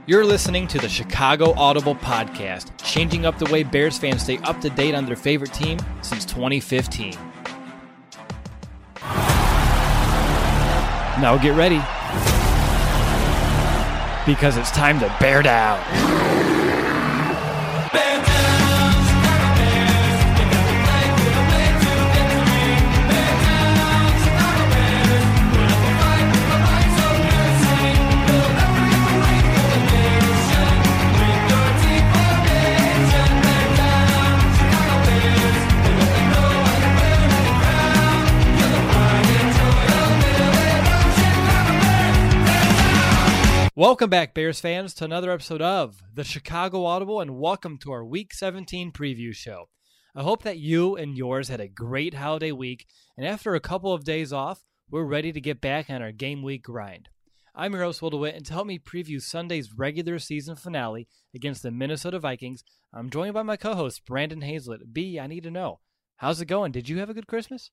You're listening to the Chicago Audible Podcast, changing up the way Bears fans stay up to date on their favorite team since 2015. Now get ready, because it's time to bear down. Welcome back, Bears fans, to another episode of the Chicago Audible, and welcome to our Week 17 preview show. I hope that you and yours had a great holiday week, and after a couple of days off, we're ready to get back on our game week grind. I'm your host, Will DeWitt, and to help me preview Sunday's regular season finale against the Minnesota Vikings, I'm joined by my co-host, Brandon Hazlett. B, I need to know, how's it going? Did you have a good Christmas?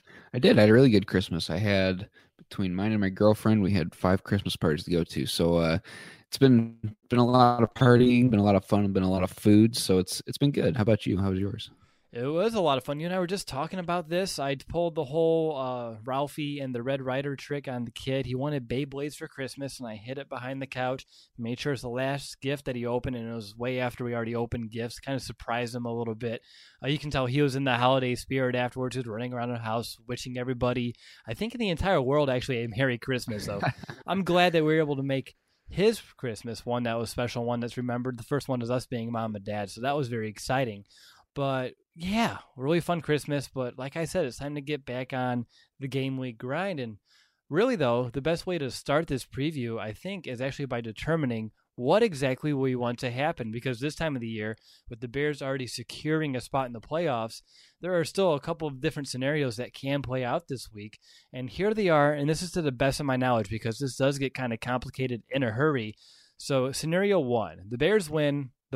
I did. I had a really good Christmas. I had, between mine and my girlfriend, we had 5 Christmas parties to go to. So it's been a lot of partying, been a lot of fun, been a lot of food. So it's been good. How about you? How was yours? It was a lot of fun. You and I were just talking about this. I pulled the whole Ralphie and the Red Ryder trick on the kid. He wanted Beyblades for Christmas, and I hid it behind the couch. Made sure it's the last gift that he opened, and it was way after we already opened gifts. Kind of surprised him a little bit. You can tell he was in the holiday spirit afterwards. He was running around the house, wishing everybody, I think in the entire world, actually, a Merry Christmas. So I'm glad that we were able to make his Christmas one that was special, one that's remembered. The first one is us being mom and dad, so that was very exciting. But yeah, really fun Christmas. But like I said, it's time to get back on the game week grind. And really, though, the best way to start this preview, I think, is actually by determining what exactly we want to happen. Because this time of the year, with the Bears already securing a spot in the playoffs, there are still a couple of different scenarios that can play out this week. And here they are, and this is to the best of my knowledge, because this does get kind of complicated in a hurry. So scenario 1, the Bears win. The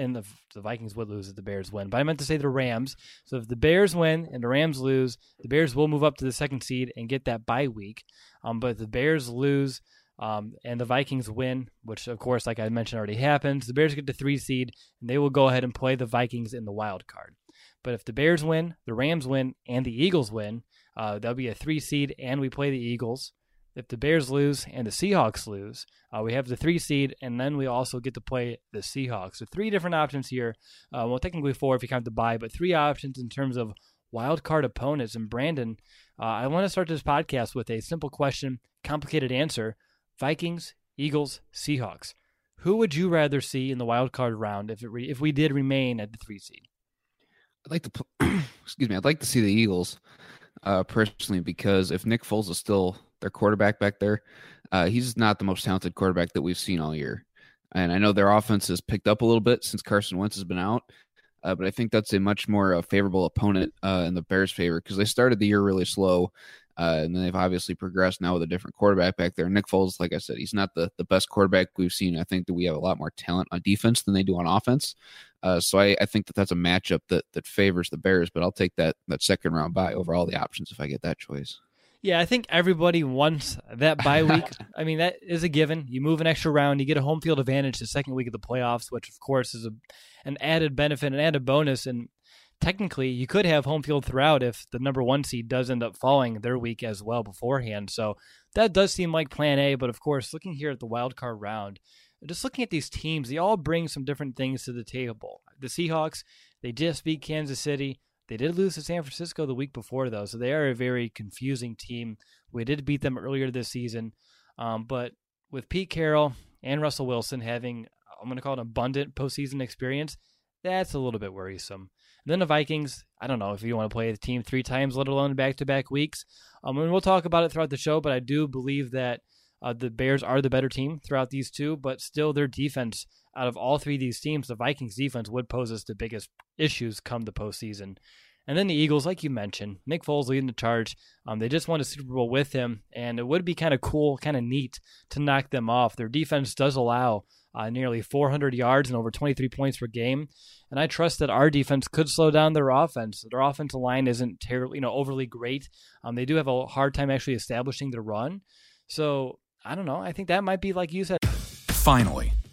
Vikings would lose if the Bears win, but I meant to say the Rams. So if the Bears win and the Rams lose, the Bears will move up to the 2nd seed and get that bye week. But if the Bears lose and the Vikings win, which of course, like I mentioned, already happens, the Bears get the 3 seed and they will go ahead and play the Vikings in the wild card. But if the Bears win, the Rams win, and the Eagles win, that'll be a 3 seed and we play the Eagles. If the Bears lose and the Seahawks lose, we have the 3 seed, and then we also get to play the Seahawks. So 3 different options here. Well, technically 4 if you count the bye, but 3 options in terms of wild card opponents. And Brandon, I want to start this podcast with a simple question, complicated answer. Vikings, Eagles, Seahawks. Who would you rather see in the wild card round if we did remain at the 3 seed? I'd like to I'd like to see the Eagles personally, because if Nick Foles is still their quarterback back there, he's not the most talented quarterback that we've seen all year. And I know their offense has picked up a little bit since Carson Wentz has been out, but I think that's a much more favorable opponent in the Bears' favor, because they started the year really slow, and then they've obviously progressed now with a different quarterback back there. Nick Foles, like I said, he's not the best quarterback we've seen. I think that we have a lot more talent on defense than they do on offense. So I think that's a matchup that favors the Bears, but I'll take that second round bye over all the options if I get that choice. Yeah, I think everybody wants that bye week. I mean, that is a given. You move an extra round, you get a home field advantage the second week of the playoffs, which, of course, is an added benefit, an added bonus. And technically, you could have home field throughout if the number 1 seed does end up falling their week as well beforehand. So that does seem like plan A. But, of course, looking here at the wild card round, just looking at these teams, they all bring some different things to the table. The Seahawks, they just beat Kansas City. They did lose to San Francisco the week before, though, so they are a very confusing team. We did beat them earlier this season, but with Pete Carroll and Russell Wilson having, I'm going to call it abundant postseason experience, that's a little bit worrisome. And then the Vikings, I don't know if you want to play the team 3 times, let alone back-to-back weeks. And we'll talk about it throughout the show, but I do believe that the Bears are the better team throughout these 2, but still their defense, out of all 3 of these teams, the Vikings defense would pose us the biggest issues come the postseason. And then the Eagles, like you mentioned, Nick Foles leading the charge. They just won a Super Bowl with him, and it would be kind of cool, kind of neat to knock them off. Their defense does allow nearly 400 yards and over 23 points per game, and I trust that our defense could slow down their offense. Their offensive line isn't terribly, overly great. They do have a hard time actually establishing the run. So I don't know. I think that might be, like you said. Finally,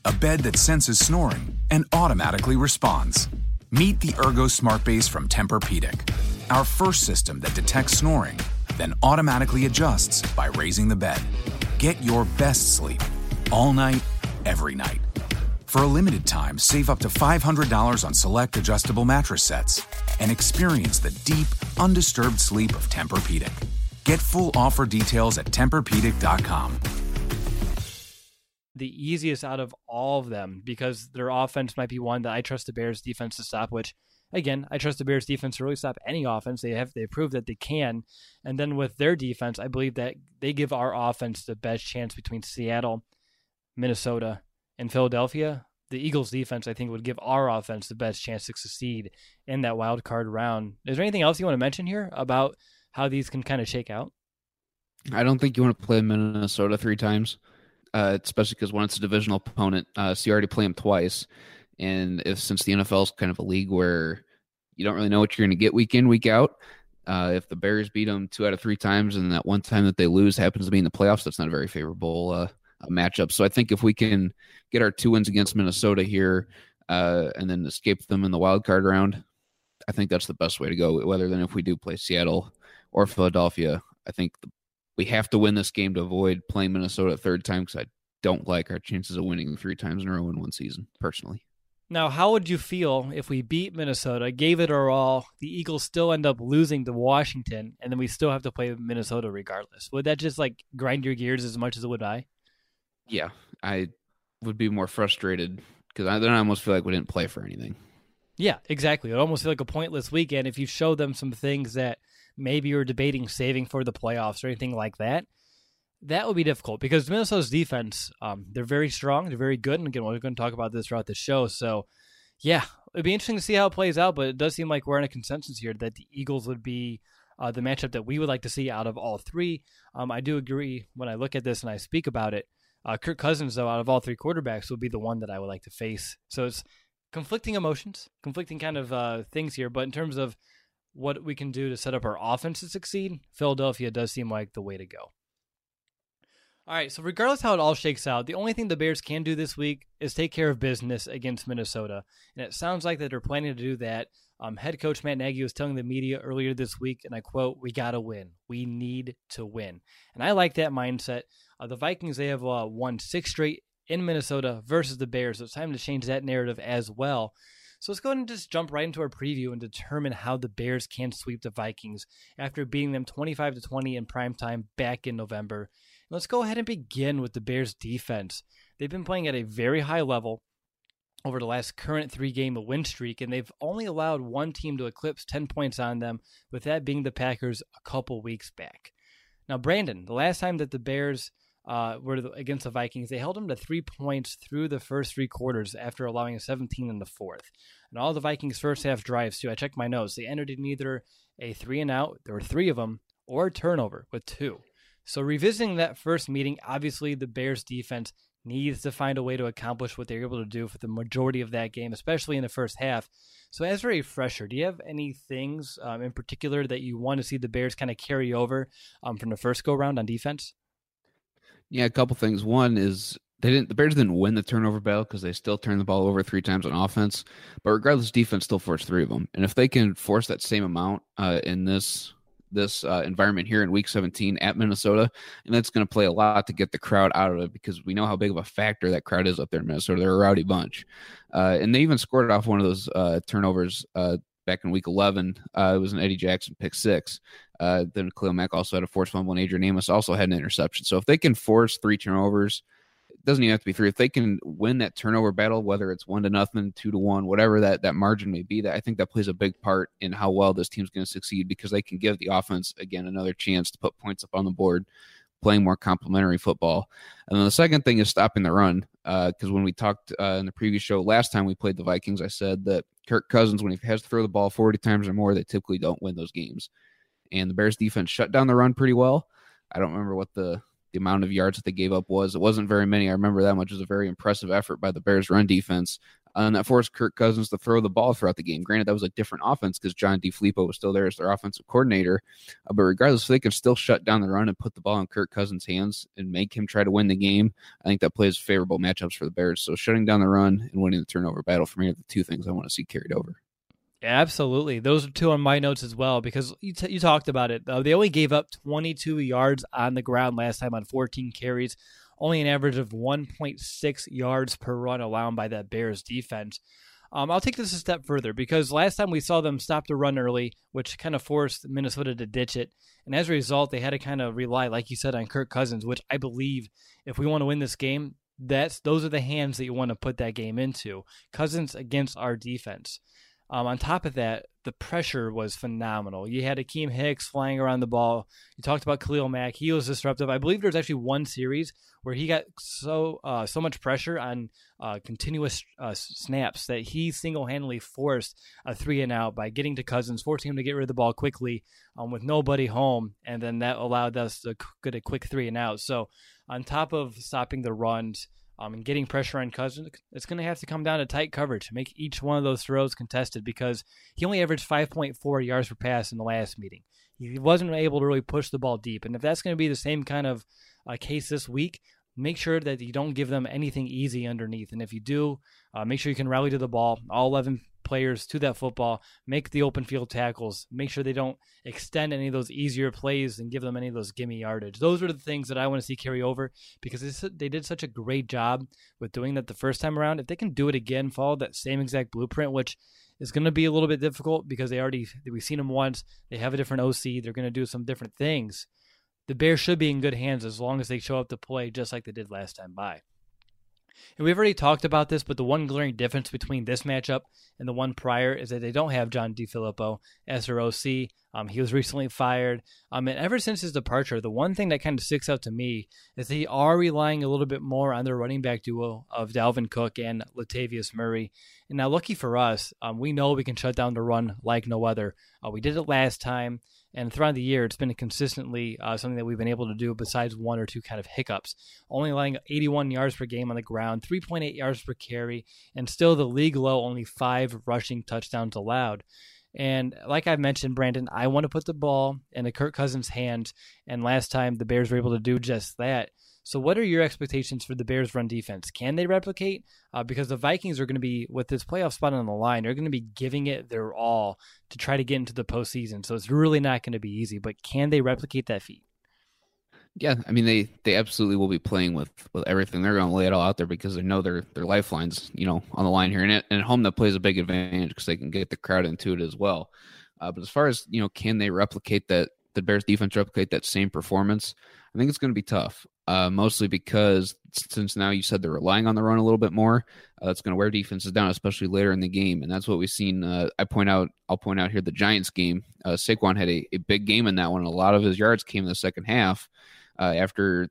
a bed that senses snoring and automatically responds. Meet the Ergo Smart Base from Tempur-Pedic, our first system that detects snoring, then automatically adjusts by raising the bed. Get your best sleep all night, every night. For a limited time, save up to $500 on select adjustable mattress sets and experience the deep, undisturbed sleep of Tempur-Pedic. Get full offer details at TempurPedic.com. The easiest out of all of them, because their offense might be one that I trust the Bears defense to stop, which again, I trust the Bears defense to really stop any offense. They proved that they can. And then with their defense, I believe that they give our offense the best chance between Seattle, Minnesota, and Philadelphia. The Eagles defense, I think, would give our offense the best chance to succeed in that wild card round. Is there anything else you want to mention here about how these can kind of shake out? I don't think you want to play Minnesota 3 times, especially because when it's a divisional opponent, so you already play them twice. And since the NFL is kind of a league where you don't really know what you're going to get week in, week out, if the Bears beat them 2 out of 3 times and that one time that they lose happens to be in the playoffs, that's not a very favorable matchup. So I think if we can get our 2 wins against Minnesota here and then escape them in the wild card round, I think that's the best way to go. Whether than if we do play Seattle or Philadelphia, I think we have to win this game to avoid playing Minnesota a 3rd time, because I don't like our chances of winning 3 times in a row in one season, personally. Now, how would you feel if we beat Minnesota, gave it our all, the Eagles still end up losing to Washington, and then we still have to play Minnesota regardless? Would that just grind your gears as much as it would I? Yeah, I would be more frustrated because then I almost feel like we didn't play for anything. Yeah, exactly. It would almost feel like a pointless weekend if you show them some things that maybe you're debating saving for the playoffs or anything like that. That would be difficult because Minnesota's defense, they're very strong. They're very good. And again, we're going to talk about this throughout the show. So, yeah, it'd be interesting to see how it plays out. But it does seem like we're in a consensus here that the Eagles would be the matchup that we would like to see out of all 3. I do agree when I look at this and I speak about it. Kirk Cousins, though, out of all 3 quarterbacks, would be the one that I would like to face. So it's conflicting emotions, conflicting kind of things here. But in terms of what we can do to set up our offense to succeed, Philadelphia does seem like the way to go. All right, so regardless how it all shakes out, the only thing the Bears can do this week is take care of business against Minnesota. And it sounds like that they're planning to do that. Head coach Matt Nagy was telling the media earlier this week, and I quote, "We got to win. We need to win." And I like that mindset. The Vikings, they have won 6 straight in Minnesota versus the Bears, so it's time to change that narrative as well. So let's go ahead and just jump right into our preview and determine how the Bears can sweep the Vikings after beating them 25-20 in primetime back in November. And let's go ahead and begin with the Bears defense. They've been playing at a very high level over the last current 3-game win streak, and they've only allowed one team to eclipse 10 points on them, with that being the Packers a couple weeks back. Now, Brandon, the last time that the Bears were against the Vikings, they held them to 3 points through the first 3 quarters after allowing 17 in the 4th. And all the Vikings' first half drives, too, I checked my notes, they ended in either a 3-and-out, there were 3 of them, or a turnover with 2. So revisiting that first meeting, obviously the Bears defense needs to find a way to accomplish what they're able to do for the majority of that game, especially in the first half. So as a refresher, do you have any things in particular that you want to see the Bears kind of carry over from the first go-round on defense? Yeah, a couple things. One is the Bears didn't win the turnover battle because they still turned the ball over 3 times on offense. But regardless, defense still forced 3 of them. And if they can force that same amount in this environment here in Week 17 at Minnesota, and that's going to play a lot to get the crowd out of it because we know how big of a factor that crowd is up there in Minnesota. They're a rowdy bunch. And they even scored off one of those turnovers back in Week 11. It was an Eddie Jackson pick 6. Then Khalil Mack also had a forced fumble, and Adrian Amos also had an interception. So if they can force 3 turnovers, it doesn't even have to be 3. If they can win that turnover battle, whether it's 1-0, 2-1, whatever that margin may be, that I think that plays a big part in how well this team's going to succeed because they can give the offense, again, another chance to put points up on the board, playing more complementary football. And then the second thing is stopping the run. Because when we talked in the previous show last time we played the Vikings, I said that Kirk Cousins, when he has to throw the ball 40 times or more, they typically don't win those games. And the Bears defense shut down the run pretty well. I don't remember what the amount of yards that they gave up was. It wasn't very many. I remember that much. It was a very impressive effort by the Bears run defense. And that forced Kirk Cousins to throw the ball throughout the game. Granted, that was a different offense because John DeFilippo was still there as their offensive coordinator. But regardless, if they can still shut down the run and put the ball in Kirk Cousins' hands and make him try to win the game, I think that plays favorable matchups for the Bears. So shutting down the run and winning the turnover battle for me are the two things I want to see carried over. Yeah, absolutely. Those are two on my notes as well, because you talked about it. They only gave up 22 yards on the ground last time on 14 carries, only an average of 1.6 yards per run allowed by that Bears defense. I'll take this a step further, because last time we saw them stop the run early, which kind of forced Minnesota to ditch it. And as a result, they had to kind of rely, like you said, on Kirk Cousins, which I believe if we want to win this game, those are the hands that you want to put that game into. Cousins against our defense. On top of that, the pressure was phenomenal. You had Akeem Hicks flying around the ball. You talked about Khalil Mack. He was disruptive. I believe there's actually one series where he got so much pressure on continuous snaps that he single-handedly forced a 3-and-out by getting to Cousins, forcing him to get rid of the ball quickly with nobody home, and then that allowed us to get a quick 3-and-out. So on top of stopping the runs, and getting pressure on Cousins, it's going to have to come down to tight coverage to make each one of those throws contested, because he only averaged 5.4 yards per pass in the last meeting. He wasn't able to really push the ball deep. And if that's going to be the same kind of case this week, make sure that you don't give them anything easy underneath. And if you do, make sure you can rally to the ball, all 11 players to that football, make the open field tackles, make sure they don't extend any of those easier plays and give them any of those gimme yardage. Those are the things that I want to see carry over, because they did such a great job with doing that the first time around. If they can do it again, follow that same exact blueprint, which is going to be a little bit difficult because we've seen them once, they have a different OC, they're going to do some different things. The Bears should be in good hands as long as they show up to play just like they did last time by. And we've already talked about this, but the one glaring difference between this matchup and the one prior is that they don't have John DeFilippo as their OC. He was recently fired. And ever since his departure, the one thing that kind of sticks out to me is they are relying a little bit more on their running back duo of Dalvin Cook and Latavius Murray. And now, lucky for us, we know we can shut down the run like no other. We did it last time. And throughout the year, it's been consistently something that we've been able to do besides one or two kind of hiccups. Only allowing 81 yards per game on the ground, 3.8 yards per carry, and still the league low, only 5 rushing touchdowns allowed. And like I mentioned, Brandon, I want to put the ball in the Kirk Cousins' hands, and last time the Bears were able to do just that. So what are your expectations for the Bears' run defense? Can they replicate? Because the Vikings are going to be, with this playoff spot on the line, they're going to be giving it their all to try to get into the postseason. So it's really not going to be easy, but can they replicate that feat? Yeah, I mean, they absolutely will be playing with everything. They're going to lay it all out there because they know their lifelines, on the line here. And at home, that plays a big advantage because they can get the crowd into it as well. But as far as, can they replicate that, the Bears defense replicate that same performance? I think it's going to be tough, mostly because since now you said they're relying on the run a little bit more, that's going to wear defenses down, especially later in the game. And that's what we've seen. I'll point out here the Giants game. Saquon had a big game in that one. A lot of his yards came in the second half after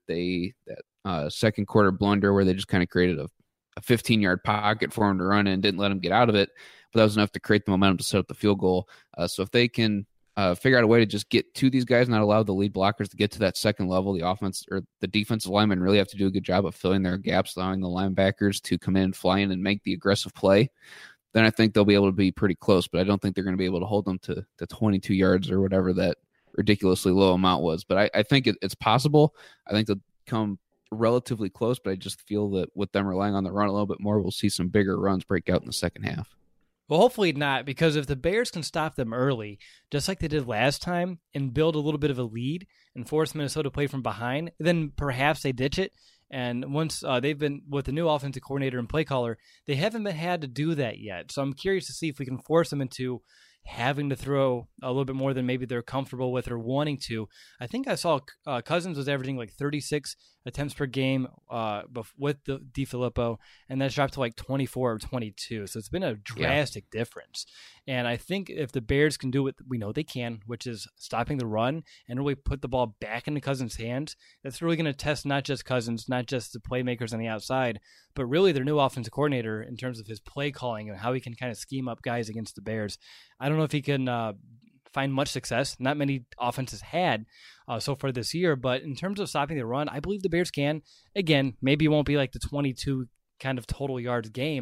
that second quarter blunder where they just kind of created a 15-yard pocket for him to run in and didn't let him get out of it. But that was enough to create the momentum to set up the field goal. So if they can figure out a way to just get to these guys, not allow the lead blockers to get to that second level, the offense or the defensive linemen really have to do a good job of filling their gaps, allowing the linebackers to come in, fly in, and make the aggressive play. Then I think they'll be able to be pretty close, but I don't think they're going to be able to hold them to the 22 yards or whatever that ridiculously low amount was. But I think it's possible. I think they'll come relatively close, but I just feel that with them relying on the run a little bit more, we'll see some bigger runs break out in the second half. Well, hopefully not, because if the Bears can stop them early, just like they did last time, and build a little bit of a lead and force Minnesota to play from behind, then perhaps they ditch it. And once they've been with the new offensive coordinator and play caller, they haven't had to do that yet. So I'm curious to see if we can force them into having to throw a little bit more than maybe they're comfortable with or wanting to. I think I saw Cousins was averaging like 36 attempts per game with the DeFilippo, and that's dropped to like 24 or 22. So it's been a drastic difference. And I think if the Bears can do what we know they can, which is stopping the run and really put the ball back into Cousins' hands, that's really going to test not just Cousins, not just the playmakers on the outside, but really their new offensive coordinator in terms of his play calling and how he can kind of scheme up guys against the Bears. I don't know if he can find much success. Not many offenses had so far this year, but in terms of stopping the run, I believe the Bears can. Again, maybe it won't be like the 22 kind of total yards game,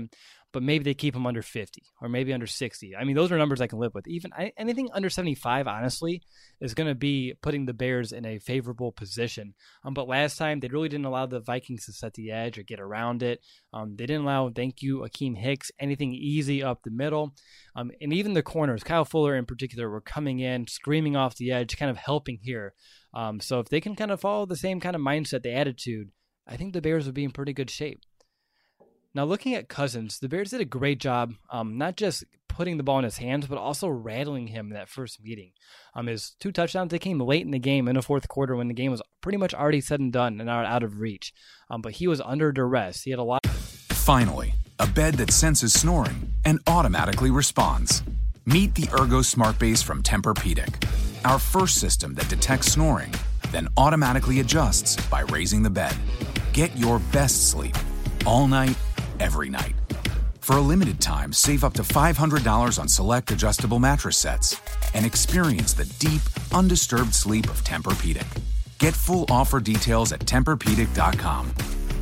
but maybe they keep him under 50 or maybe under 60. I mean, those are numbers I can live with. Even anything under 75, honestly, is going to be putting the Bears in a favorable position. But last time, they really didn't allow the Vikings to set the edge or get around it. They didn't allow, thank you, Akeem Hicks, anything easy up the middle. And even the corners, Kyle Fuller in particular, were coming in, screaming off the edge, kind of helping here. So if they can kind of follow the same kind of mindset, the attitude, I think the Bears would be in pretty good shape. Now, looking at Cousins, the Bears did a great job, not just putting the ball in his hands, but also rattling him in that first meeting. His 2 touchdowns, they came late in the game in the fourth quarter when the game was pretty much already said and done and out of reach. But he was under duress. He had a lot. Finally, a bed that senses snoring and automatically responds. Meet the Ergo Smart Base from Tempur-Pedic, our first system that detects snoring, then automatically adjusts by raising the bed. Get your best sleep all night, every night. For a limited time, save up to $500 on select adjustable mattress sets and experience the deep, undisturbed sleep of Tempur-Pedic. Get full offer details at TempurPedic.com.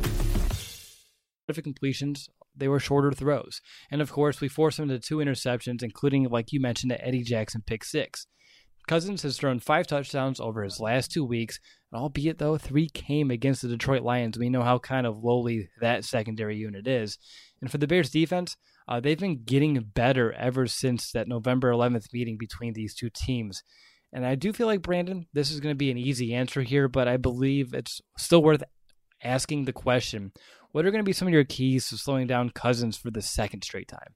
Perfect completions, they were shorter throws. And of course, we forced him into 2 interceptions, including, like you mentioned, the Eddie Jackson pick 6. Cousins has thrown 5 touchdowns over his last 2 weeks, albeit though 3 came against the Detroit Lions. We know how kind of lowly that secondary unit is. And for the Bears defense, they've been getting better ever since that November 11th meeting between these 2 teams. And I do feel like, Brandon, this is going to be an easy answer here, but I believe it's still worth asking the question, what are going to be some of your keys to slowing down Cousins for the second straight time?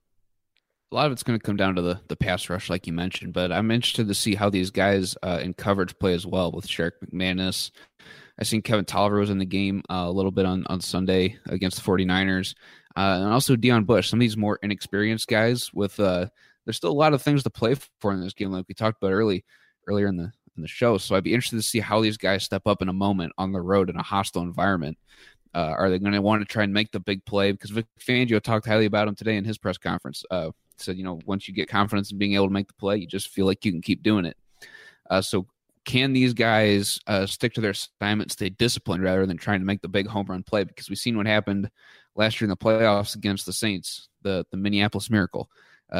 A lot of it's going to come down to the pass rush, like you mentioned, but I'm interested to see how these guys in coverage play as well with Sherrick McManus. I seen Kevin Tolliver was in the game a little bit on Sunday against the 49ers. And also Deion Bush, some of these more inexperienced guys with there's still a lot of things to play for in this game, like we talked about earlier in the show. So I'd be interested to see how these guys step up in a moment on the road in a hostile environment. Are they going to want to try and make the big play? Because Vic Fangio talked highly about him today in his press conference. Said, once you get confidence in being able to make the play, you just feel like you can keep doing it. So can these guys stick to their assignment, stay disciplined rather than trying to make the big home run play? Because we've seen what happened last year in the playoffs against the Saints, the Minneapolis Miracle.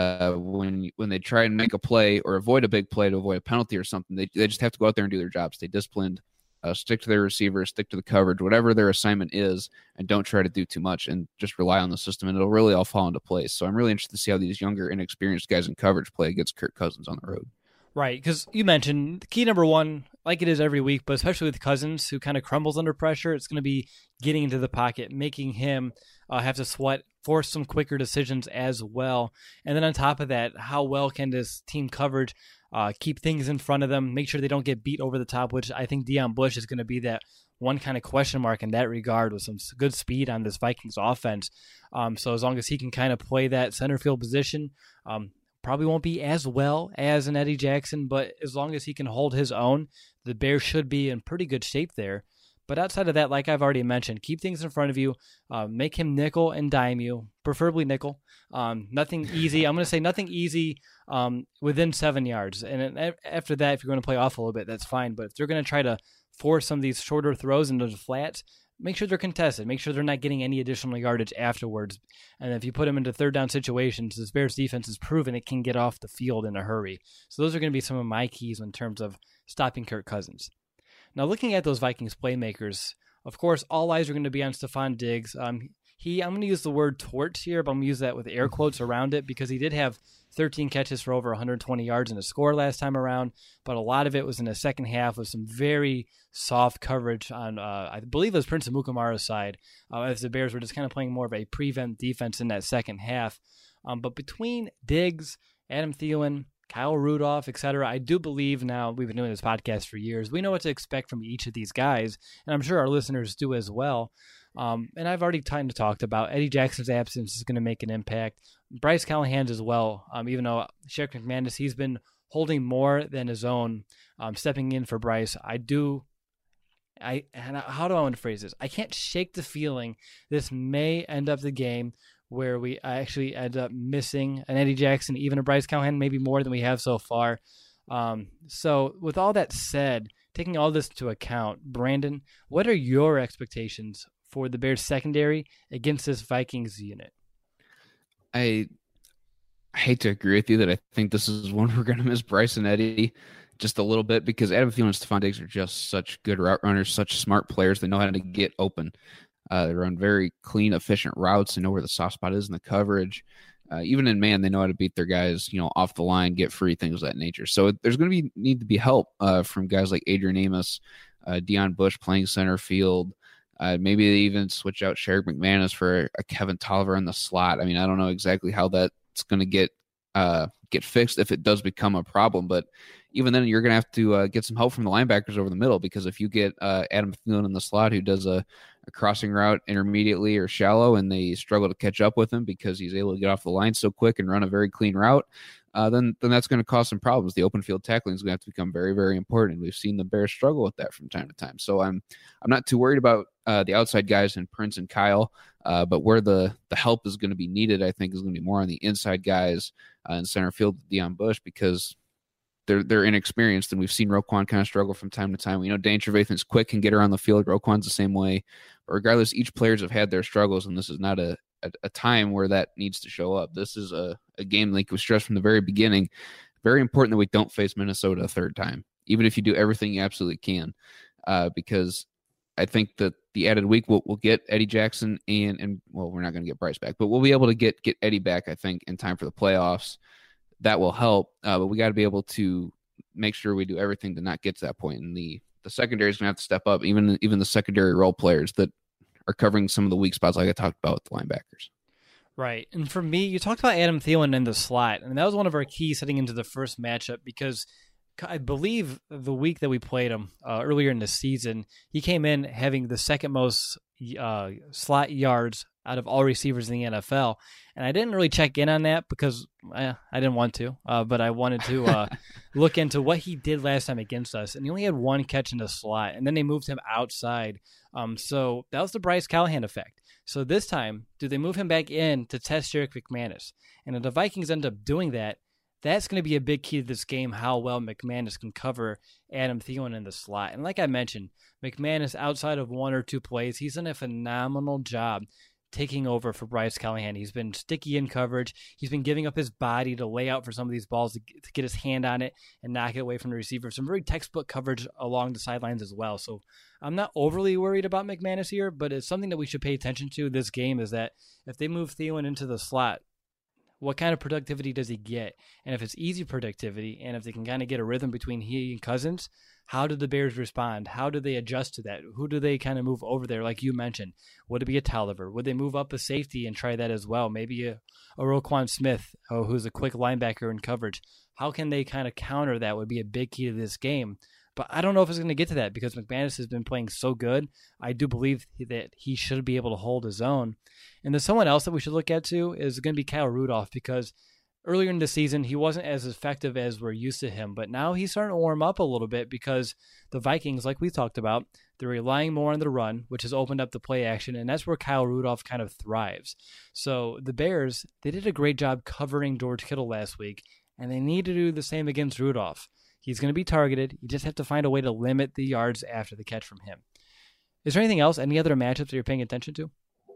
When they try and make a play or avoid a big play to avoid a penalty or something, they just have to go out there and do their job, stay disciplined, stick to their receivers, stick to the coverage, whatever their assignment is, and don't try to do too much and just rely on the system, and it'll really all fall into place. So I'm really interested to see how these younger, inexperienced guys in coverage play against Kirk Cousins on the road. Right, because you mentioned key number 1, like it is every week, but especially with Cousins, who kind of crumbles under pressure, it's going to be getting into the pocket, making him have to sweat, force some quicker decisions as well. And then on top of that, how well can this team coverage keep things in front of them, make sure they don't get beat over the top, which I think Deion Bush is going to be that one kind of question mark in that regard with some good speed on this Vikings offense. So as long as he can kind of play that center field position, probably won't be as well as an Eddie Jackson, but as long as he can hold his own, the Bears should be in pretty good shape there. But outside of that, like I've already mentioned, keep things in front of you, make him nickel and dime you, preferably nickel. Nothing easy. I'm going to say nothing easy within 7 yards. And after that, if you're going to play off a little bit, that's fine. But if they're going to try to force some of these shorter throws into the flats, make sure they're contested. Make sure they're not getting any additional yardage afterwards. And if you put them into third down situations, this Bears defense has proven it can get off the field in a hurry. So those are going to be some of my keys in terms of stopping Kirk Cousins. Now, looking at those Vikings playmakers, of course, all eyes are going to be on Stephon Diggs. I'm going to use the word torch here, but I'm going to use that with air quotes around it because he did have 13 catches for over 120 yards and a score last time around, but a lot of it was in the second half with some very soft coverage on, I believe it was Prince Amukamara's side, as the Bears were just kind of playing more of a prevent defense in that second half. But between Diggs, Adam Thielen, Kyle Rudolph, etc. I do believe now, we've been doing this podcast for years, we know what to expect from each of these guys, and I'm sure our listeners do as well. And I've already kind of talked about Eddie Jackson's absence is going to make an impact. Bryce Callahan's as well, even though Sherrick McManus, he's been holding more than his own, stepping in for Bryce. How do I want to phrase this? I can't shake the feeling this may end up the game where we actually end up missing an Eddie Jackson, even a Bryce Callahan, maybe more than we have so far. So with all that said, taking all this into account, Brandon, what are your expectations for the Bears secondary against this Vikings unit? I hate to agree with you that I think this is one we're going to miss Bryson Eddy just a little bit, because Adam Thielen and Stephon Diggs are just such good route runners, such smart players. They know how to get open. They run very clean, efficient routes. They know where the soft spot is in the coverage. Even in man, they know how to beat their guys, off the line, get free, things of that nature. So there's going to need to be help from guys like Adrian Amos, Deion Bush playing center field. Maybe they even switch out Sherrick McManus for a Kevin Tolliver in the slot. I mean, I don't know exactly how that's going to get fixed if it does become a problem, but even then you're going to have to get some help from the linebackers over the middle, because if you get Adam Thielen in the slot who does a crossing route intermediately or shallow and they struggle to catch up with him because he's able to get off the line so quick and run a very clean route, then that's going to cause some problems. The open field tackling is going to have to become very, very important. We've seen the Bears struggle with that from time to time. So I'm not too worried about the outside guys in Prince and Kyle, but where the help is going to be needed, I think, is going to be more on the inside guys in center field, Deion Bush, because they're inexperienced, and we've seen Roquan kind of struggle from time to time. We know Dane Trevathan's quick, can get around the field. Roquan's the same way. But regardless, each players have had their struggles, and this is not a time where that needs to show up. This is a game, like we stressed from the very beginning, very important that we don't face Minnesota a third time, even if you do everything you absolutely can, because I think that the added week we'll get Eddie Jackson and well, we're not going to get Bryce back, but we'll be able to get Eddie back, I think, in time for the playoffs. That will help, but we got to be able to make sure we do everything to not get to that point. And the secondary is going to have to step up, even the secondary role players that are covering some of the weak spots, like I talked about with the linebackers. Right. And for me, you talked about Adam Thielen in the slot, and that was one of our keys heading into the first matchup, because I believe the week that we played him earlier in the season, he came in having the second most slot yards out of all receivers in the NFL. And I didn't really check in on that because I didn't want to, but I wanted to look into what he did last time against us. And he only had one catch in the slot, and then they moved him outside. So that was the Bryce Callahan effect. So this time, do they move him back in to test Sherrick McManus? And if the Vikings end up doing that, that's going to be a big key to this game, how well McManus can cover Adam Thielen in the slot. And like I mentioned, McManus, outside of one or two plays, he's done a phenomenal job taking over for Bryce Callahan. He's been sticky in coverage. He's been giving up his body to lay out for some of these balls to get his hand on it and knock it away from the receiver. Some very textbook coverage along the sidelines as well. So I'm not overly worried about McManus here, but it's something that we should pay attention to this game, is that if they move Thielen into the slot, what kind of productivity does he get? And if it's easy productivity, and if they can kind of get a rhythm between he and Cousins, how do the Bears respond? How do they adjust to that? Who do they kind of move over there, like you mentioned? Would it be a Tolliver? Would they move up a safety and try that as well? Maybe a Roquan Smith, who's a quick linebacker in coverage. How can they kind of counter that would be a big key to this game. But I don't know if it's going to get to that, because McManus has been playing so good. I do believe that he should be able to hold his own. And there's someone else that we should look at too is going to be Kyle Rudolph, because earlier in the season he wasn't as effective as we're used to him. But now he's starting to warm up a little bit, because the Vikings, like we talked about, they're relying more on the run, which has opened up the play action, and that's where Kyle Rudolph kind of thrives. So the Bears, they did a great job covering George Kittle last week, and they need to do the same against Rudolph. He's going to be targeted. You just have to find a way to limit the yards after the catch from him. Is there anything else, any other matchups that you're paying attention to?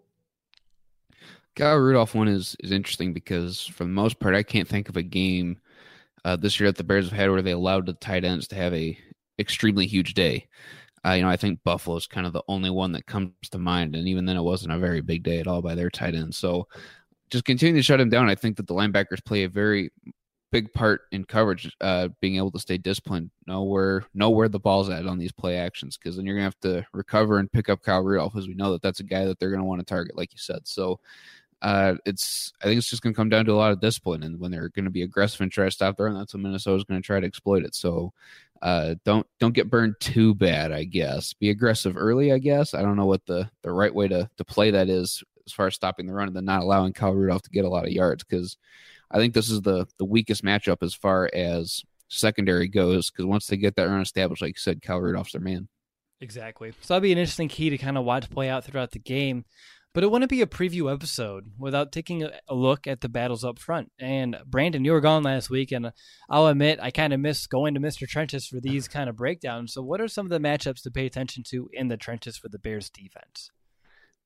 Kyle Rudolph one is interesting, because for the most part, I can't think of a game this year that the Bears have had where they allowed the tight ends to have a extremely huge day. I think Buffalo is kind of the only one that comes to mind, and even then it wasn't a very big day at all by their tight end. So just continuing to shut him down, I think that the linebackers play a very big part in coverage, being able to stay disciplined, know where the ball's at on these play actions, because then you're going to have to recover and pick up Kyle Rudolph, as we know that's a guy that they're going to want to target, like you said. So I think it's just going to come down to a lot of discipline, and when they're going to be aggressive and try to stop the run, that's when Minnesota's going to try to exploit it. So don't get burned too bad, I guess. Be aggressive early, I guess. I don't know what the right way to play that is as far as stopping the run and then not allowing Kyle Rudolph to get a lot of yards, because I think this is the weakest matchup as far as secondary goes, because once they get that run established, like you said, Kyle Rudolph's their man. Exactly. So that'll be an interesting key to kind of watch play out throughout the game. But it wouldn't be a preview episode without taking a look at the battles up front. And Brandon, you were gone last week, and I'll admit I kind of miss going to Mr. Trenches for these kind of breakdowns. So what are some of the matchups to pay attention to in the trenches for the Bears defense?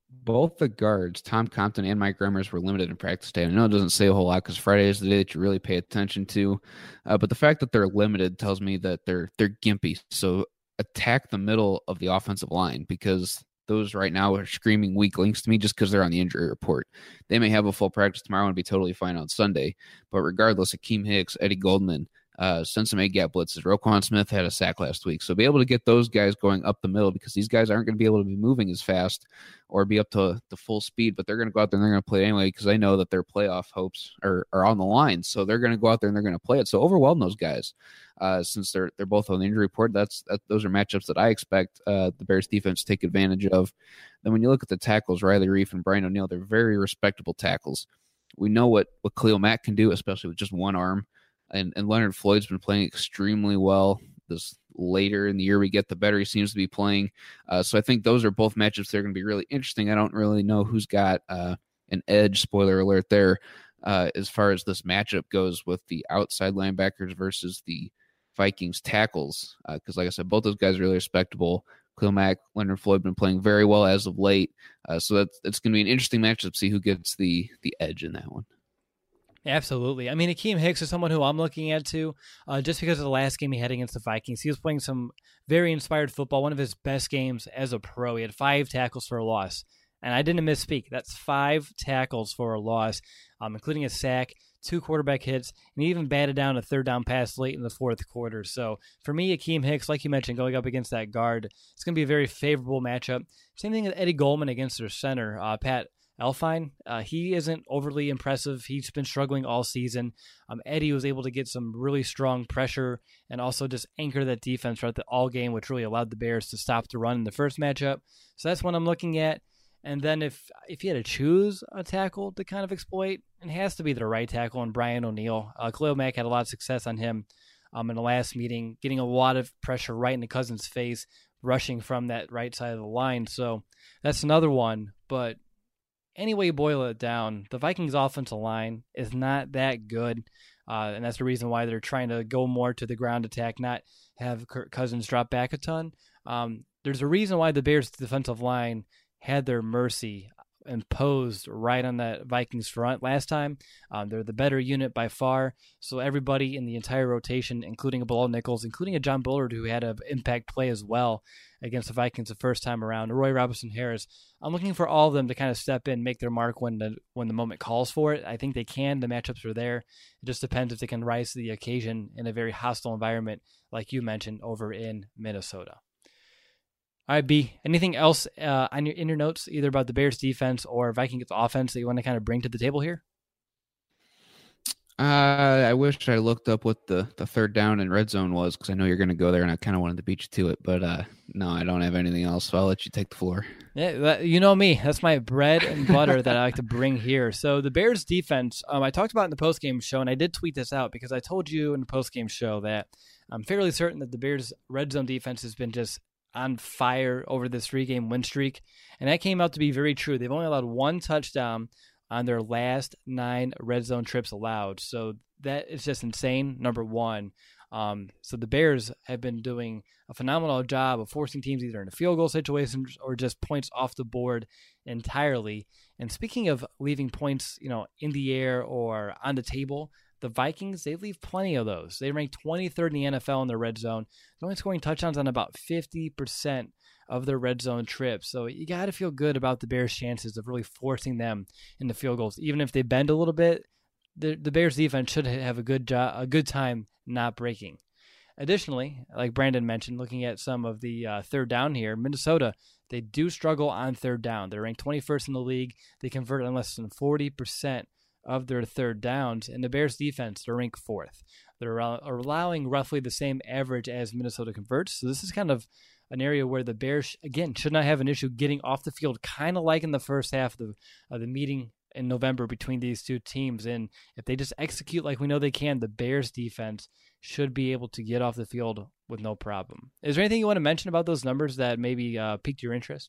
Both the guards, Tom Compton and Mike Remmers, were limited in practice day. I know it doesn't say a whole lot because Friday is the day that you really pay attention to, but the fact that they're limited tells me that they're gimpy. So attack the middle of the offensive line, because those right now are screaming weak links to me just because they're on the injury report. They may have a full practice tomorrow and be totally fine on Sunday, but regardless, Akeem Hicks, Eddie Goldman, send some A-gap blitzes. Roquan Smith had a sack last week. So be able to get those guys going up the middle, because these guys aren't going to be able to be moving as fast or be up to the full speed, but they're going to go out there and they're going to play anyway, because I know that their playoff hopes are on the line. So they're going to go out there and they're going to play it. So overwhelm those guys. Since they're both on the injury report, those are matchups that I expect the Bears defense to take advantage of. Then when you look at the tackles, Riley Reif and Brian O'Neill, they're very respectable tackles. We know what Khalil Mack can do, especially with just one arm. And Leonard Floyd's been playing extremely well. This later in the year we get, the better he seems to be playing. So I think those are both matchups that are going to be really interesting. I don't really know who's got an edge, spoiler alert there, as far as this matchup goes with the outside linebackers versus the Vikings tackles. Because like I said, both those guys are really respectable. Khalil Mack, Leonard Floyd been playing very well as of late. So it's going to be an interesting matchup to see who gets the edge in that one. Absolutely. I mean, Akeem Hicks is someone who I'm looking at too, just because of the last game he had against the Vikings. He was playing some very inspired football, one of his best games as a pro. He had 5 tackles for a loss. And I didn't misspeak. That's 5 tackles for a loss, including a sack, 2 quarterback hits, and he even batted down a third down pass late in the fourth quarter. So for me, Akeem Hicks, like you mentioned, going up against that guard, it's going to be a very favorable matchup. Same thing with Eddie Goldman against their center, Pat Elflein. He isn't overly impressive. He's been struggling all season. Eddie was able to get some really strong pressure and also just anchor that defense throughout the all game, which really allowed the Bears to stop the run in the first matchup. So that's what I'm looking at. And then if you had to choose a tackle to kind of exploit, it has to be the right tackle and Brian O'Neill. Khalil Mack had a lot of success on him in the last meeting, getting a lot of pressure right in the Cousins' face, rushing from that right side of the line. So that's another one. But any way you boil it down, the Vikings' offensive line is not that good, and that's the reason why they're trying to go more to the ground attack, not have Kirk Cousins drop back a ton. There's a reason why the Bears' defensive line had their mercy imposed right on that Vikings front last time. They're the better unit by far, so everybody in the entire rotation, including a Bilal Nichols, including a John Bullard who had an impact play as well against the Vikings the first time around, Roy Robinson Harris. I'm looking for all of them to kind of step in, make their mark when the moment calls for it. I think they can. The matchups are there. It just depends if they can rise to the occasion in a very hostile environment, like you mentioned, over in Minnesota. All right, B, anything else in your notes, either about the Bears defense or Vikings offense that you want to kind of bring to the table here? I wish I looked up what the third down and red zone was, because I know you're going to go there, and I kind of wanted to beat you to it. But no, I don't have anything else, so I'll let you take the floor. Yeah, you know me. That's my bread and butter that I like to bring here. So the Bears defense, I talked about in the postgame show, and I did tweet this out because I told you in the postgame show that I'm fairly certain that the Bears' red zone defense has been just on fire over this 3-game win streak, and that came out to be very true. They've only allowed 1 touchdown on their last 9 red zone trips allowed, so that is just insane, number one. So the Bears have been doing a phenomenal job of forcing teams either into field goal situations or just points off the board entirely. And speaking of leaving points, in the air or on the table, the Vikings, they leave plenty of those. They rank 23rd in the NFL in their red zone. They're only scoring touchdowns on about 50% of their red zone trips. So you got to feel good about the Bears' chances of really forcing them into field goals. Even if they bend a little bit, the Bears' defense should have a good time not breaking. Additionally, like Brandon mentioned, looking at some of the third down here, Minnesota, they do struggle on third down. They're ranked 21st in the league. They convert on less than 40% of their third downs, and the Bears defense, they're ranked 4th. They're allowing roughly the same average as Minnesota converts. So this is kind of an area where the Bears, again, should not have an issue getting off the field, kind of like in the first half of the meeting in November between these two teams. And if they just execute like we know they can, the Bears defense should be able to get off the field with no problem. Is there anything you want to mention about those numbers that maybe piqued your interest?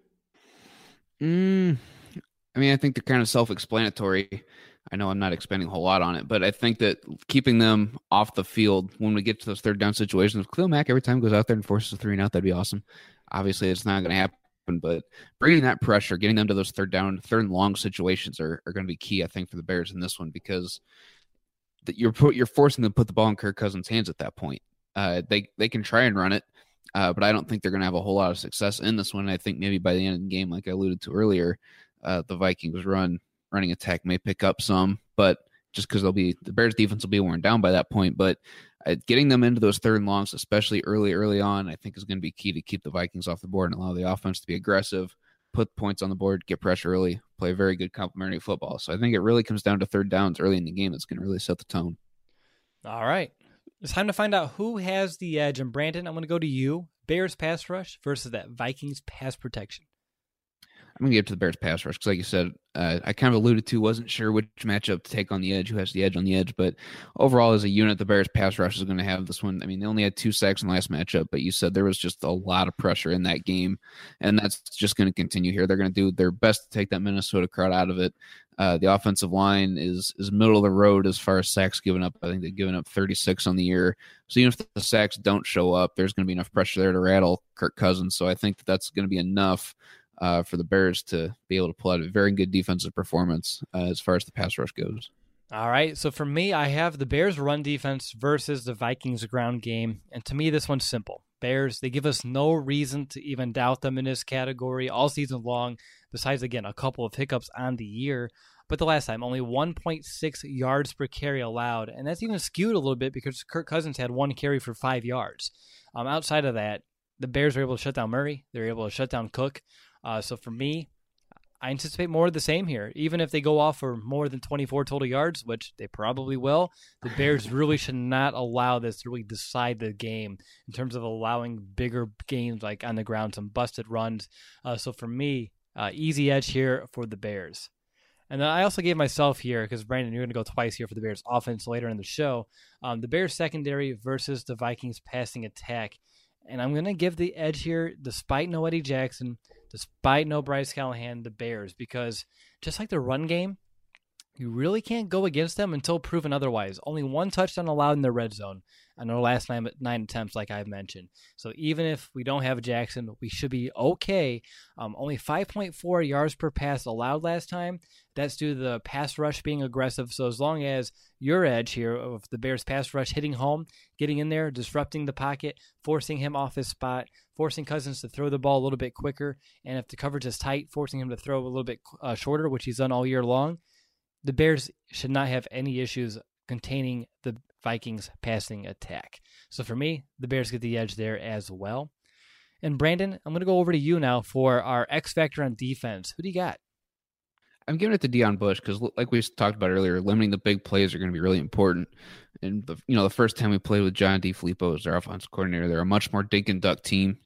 I think they're kind of self-explanatory. I know I'm not expending a whole lot on it, but I think that keeping them off the field when we get to those third down situations, Khalil Mack every time goes out there and forces a 3 and out, that'd be awesome. Obviously, it's not going to happen happen. But bringing that pressure, getting them to those third and long situations are going to be key, I think, for the Bears in this one, because you're forcing them to put the ball in Kirk Cousins' hands at that point. They can try and run it, but I don't think they're going to have a whole lot of success in this one. I think maybe by the end of the game, like I alluded to earlier, the Vikings running attack may pick up some, but just because the Bears defense will be worn down by that point. But getting them into those third and longs, especially early on, I think is going to be key to keep the Vikings off the board and allow the offense to be aggressive, put points on the board, get pressure early, play very good complementary football. So I think it really comes down to third downs early in the game. That's going to really set the tone. All right. It's time to find out who has the edge. And Brandon, I'm going to go to you. Bears pass rush versus that Vikings pass protection. I'm going to give it to the Bears pass rush because, like you said, I kind of alluded to, wasn't sure which matchup to take on the edge, who has the edge on the edge. But overall, as a unit, the Bears pass rush is going to have this one. I mean, they only had 2 sacks in the last matchup, but you said there was just a lot of pressure in that game, and that's just going to continue here. They're going to do their best to take that Minnesota crowd out of it. The offensive line is middle of the road as far as sacks given up. I think they've given up 36 on the year. So even if the sacks don't show up, there's going to be enough pressure there to rattle Kirk Cousins. So I think that's going to be enough for the Bears to be able to pull out a very good defensive performance as far as the pass rush goes. All right, so for me, I have the Bears run defense versus the Vikings ground game. And to me, this one's simple. Bears, they give us no reason to even doubt them in this category all season long, besides, again, a couple of hiccups on the year. But the last time, only 1.6 yards per carry allowed, and that's even skewed a little bit because Kirk Cousins had 1 carry for 5 yards. Outside of that, the Bears were able to shut down Murray. They were able to shut down Cook. So for me, I anticipate more of the same here. Even if they go off for more than 24 total yards, which they probably will, the Bears really should not allow this to really decide the game in terms of allowing bigger games like on the ground, some busted runs. So for me, easy edge here for the Bears. And then I also gave myself here, because Brandon, you're going to go twice here for the Bears offense later in the show, the Bears secondary versus the Vikings passing attack. And I'm going to give the edge here, despite no Eddie Jackson, despite no Bryce Callahan, the Bears, because just like the run game, you really can't go against them until proven otherwise. Only 1 touchdown allowed in the red zone on their last 9 attempts, like I've mentioned. So even if we don't have Jackson, we should be okay. Only 5.4 yards per pass allowed last time. That's due to the pass rush being aggressive. So as long as your edge here of the Bears pass rush hitting home, getting in there, disrupting the pocket, forcing him off his spot, forcing Cousins to throw the ball a little bit quicker, and if the coverage is tight, forcing him to throw a little bit shorter, which he's done all year long, the Bears should not have any issues containing the Vikings passing attack. So for me, the Bears get the edge there as well. And Brandon, I'm going to go over to you now for our X factor on defense. Who do you got? I'm giving it to Deion Bush because, like we talked about earlier, limiting the big plays are going to be really important. And the first time we played with John DeFilippo as their offensive coordinator, they're a much more dink and dunk team.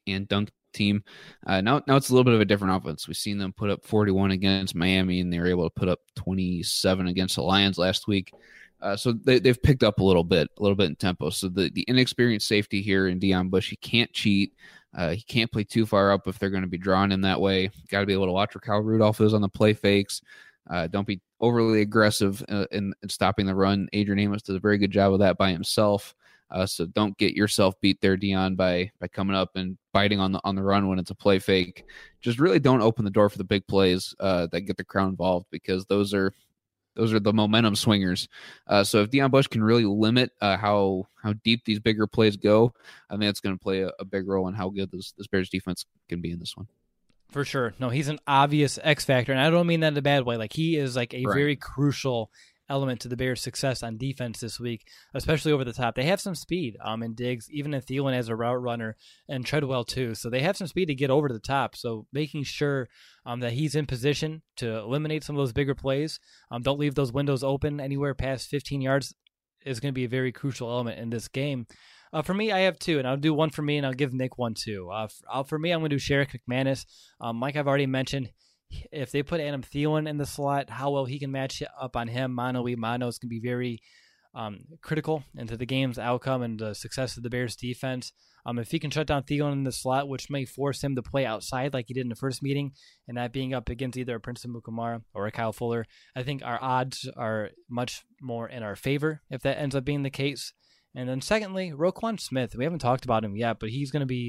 Now it's a little bit of a different offense. We've seen them put up 41 against Miami, and they were able to put up 27 against the Lions last week. So they've picked up a little bit in tempo. So the inexperienced safety here in Deion Bush, he can't cheat. He can't play too far up if they're going to be drawing him that way. Got to be able to watch where Kyle Rudolph is on the play fakes. Don't be overly aggressive in stopping the run. Adrian Amos does a very good job of that by himself. So don't get yourself beat there, Deion, by coming up and biting on the run when it's a play fake. Just really don't open the door for the big plays that get the crowd involved, because those are the momentum swingers. So if Deion Bush can really limit how deep these bigger plays go, I think it's going to play a big role in how good this Bears defense can be in this one. For sure. No, he's an obvious X factor, and I don't mean that in a bad way. Like, he is like a very crucial element to the Bears' success on defense this week, especially over the top. They have some speed in Diggs, even in Thielen as a route runner, and Treadwell too. So they have some speed to get over to the top. So making sure that he's in position to eliminate some of those bigger plays, don't leave those windows open anywhere past 15 yards, is going to be a very crucial element in this game. For me, I have 2, and I'll do one for me, and I'll give Nick one too. For me, I'm going to do Sherrick McManus. Like I've already mentioned, if they put Adam Thielen in the slot, how well he can match up on him, mano-a-mano, is going to be very critical into the game's outcome and the success of the Bears defense. If he can shut down Thielen in the slot, which may force him to play outside like he did in the first meeting, and that being up against either a Princeton Mukamara or a Kyle Fuller, I think our odds are much more in our favor if that ends up being the case. And then secondly, Roquan Smith. We haven't talked about him yet, but he's going to be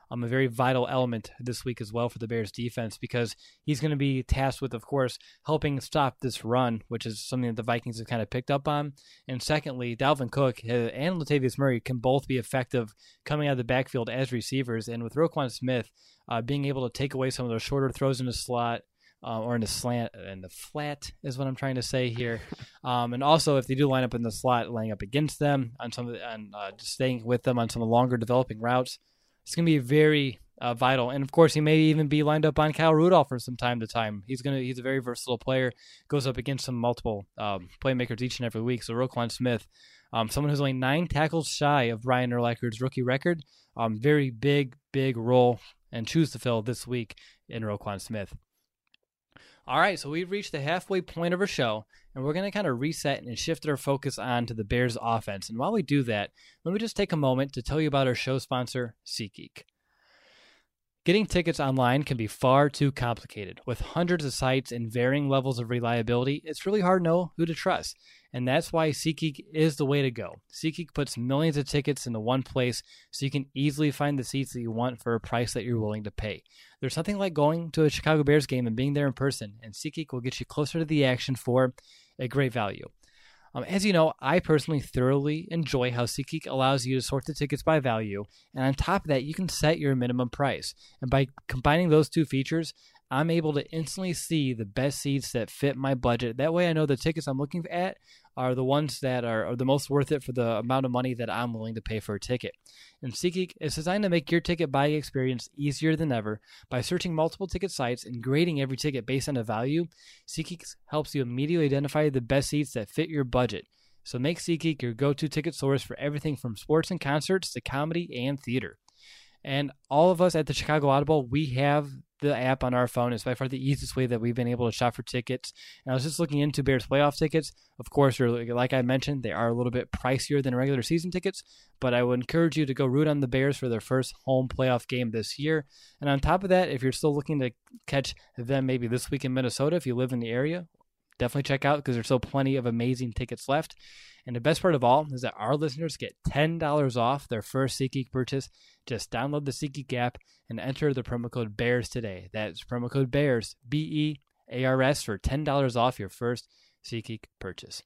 a very vital element this week as well for the Bears defense, because he's going to be tasked with, of course, helping stop this run, which is something that the Vikings have kind of picked up on. And secondly, Dalvin Cook and Latavius Murray can both be effective coming out of the backfield as receivers. And with Roquan Smith being able to take away some of those shorter throws in the slot, or in the slant, and the flat is what I'm trying to say here. And also, if they do line up in the slot, laying up against them on some of the, and just staying with them on some of the longer developing routes, it's going to be very vital. And of course, he may even be lined up on Kyle Rudolph from time to time. He's a very versatile player, goes up against some multiple playmakers each and every week. So Roquan Smith, someone who's only 9 tackles shy of Brian Urlacher's rookie record, very big role and choose to fill this week in Roquan Smith. All right, so we've reached the halfway point of our show, and we're going to kind of reset and shift our focus on to the Bears offense. And while we do that, let me just take a moment to tell you about our show sponsor, SeatGeek. Getting tickets online can be far too complicated. With hundreds of sites and varying levels of reliability, it's really hard to know who to trust. And that's why SeatGeek is the way to go. SeatGeek puts millions of tickets into one place so you can easily find the seats that you want for a price that you're willing to pay. There's nothing like going to a Chicago Bears game and being there in person, and SeatGeek will get you closer to the action for a great value. As you know, I personally thoroughly enjoy how SeatGeek allows you to sort the tickets by value, and on top of that, you can set your minimum price. And by combining those two features, I'm able to instantly see the best seats that fit my budget. That way I know the tickets I'm looking at are the ones that are the most worth it for the amount of money that I'm willing to pay for a ticket. And SeatGeek is designed to make your ticket buying experience easier than ever. By searching multiple ticket sites and grading every ticket based on a value, SeatGeek helps you immediately identify the best seats that fit your budget. So make SeatGeek your go-to ticket source for everything from sports and concerts to comedy and theater. And all of us at the Chicago Audible, we have the app on our phone. It's by far the easiest way that we've been able to shop for tickets. And I was just looking into Bears playoff tickets. Of course, like I mentioned, they are a little bit pricier than regular season tickets, but I would encourage you to go root on the Bears for their first home playoff game this year. And on top of that, if you're still looking to catch them maybe this week in Minnesota, if you live in the area, definitely check out because there's still plenty of amazing tickets left. And the best part of all is that our listeners get $10 off their first SeatGeek purchase. Just download the SeatGeek app and enter the promo code BEARS today. That's promo code BEARS, BEARS, for $10 off your first SeatGeek purchase.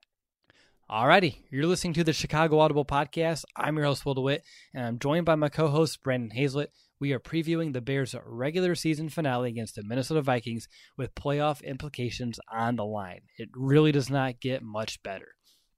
Alrighty, you're listening to the Chicago Audible Podcast. I'm your host, Will DeWitt, and I'm joined by my co-host, Brandon Hazlett. We are previewing the Bears' regular season finale against the Minnesota Vikings with playoff implications on the line. It really does not get much better.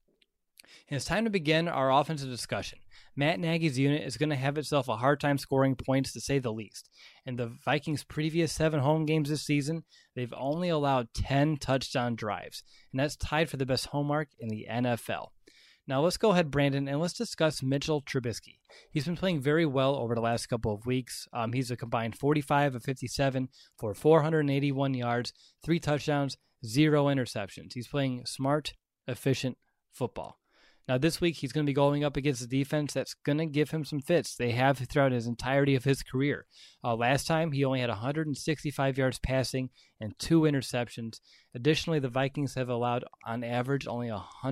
And it's time to begin our offensive discussion. Matt Nagy's unit is going to have itself a hard time scoring points, to say the least. In the Vikings' previous 7 home games this season, they've only allowed 10 touchdown drives, and that's tied for the best home mark in the NFL. Now let's go ahead, Brandon, and let's discuss Mitchell Trubisky. He's been playing very well over the last couple of weeks. He's a combined 45 of 57 for 481 yards, 3 touchdowns, 0 interceptions. He's playing smart, efficient football. Now, this week, he's going to be going up against a defense that's going to give him some fits. They have throughout his entirety of his career. Last time, he only had 165 yards passing and 2 interceptions. Additionally, the Vikings have allowed, on average, only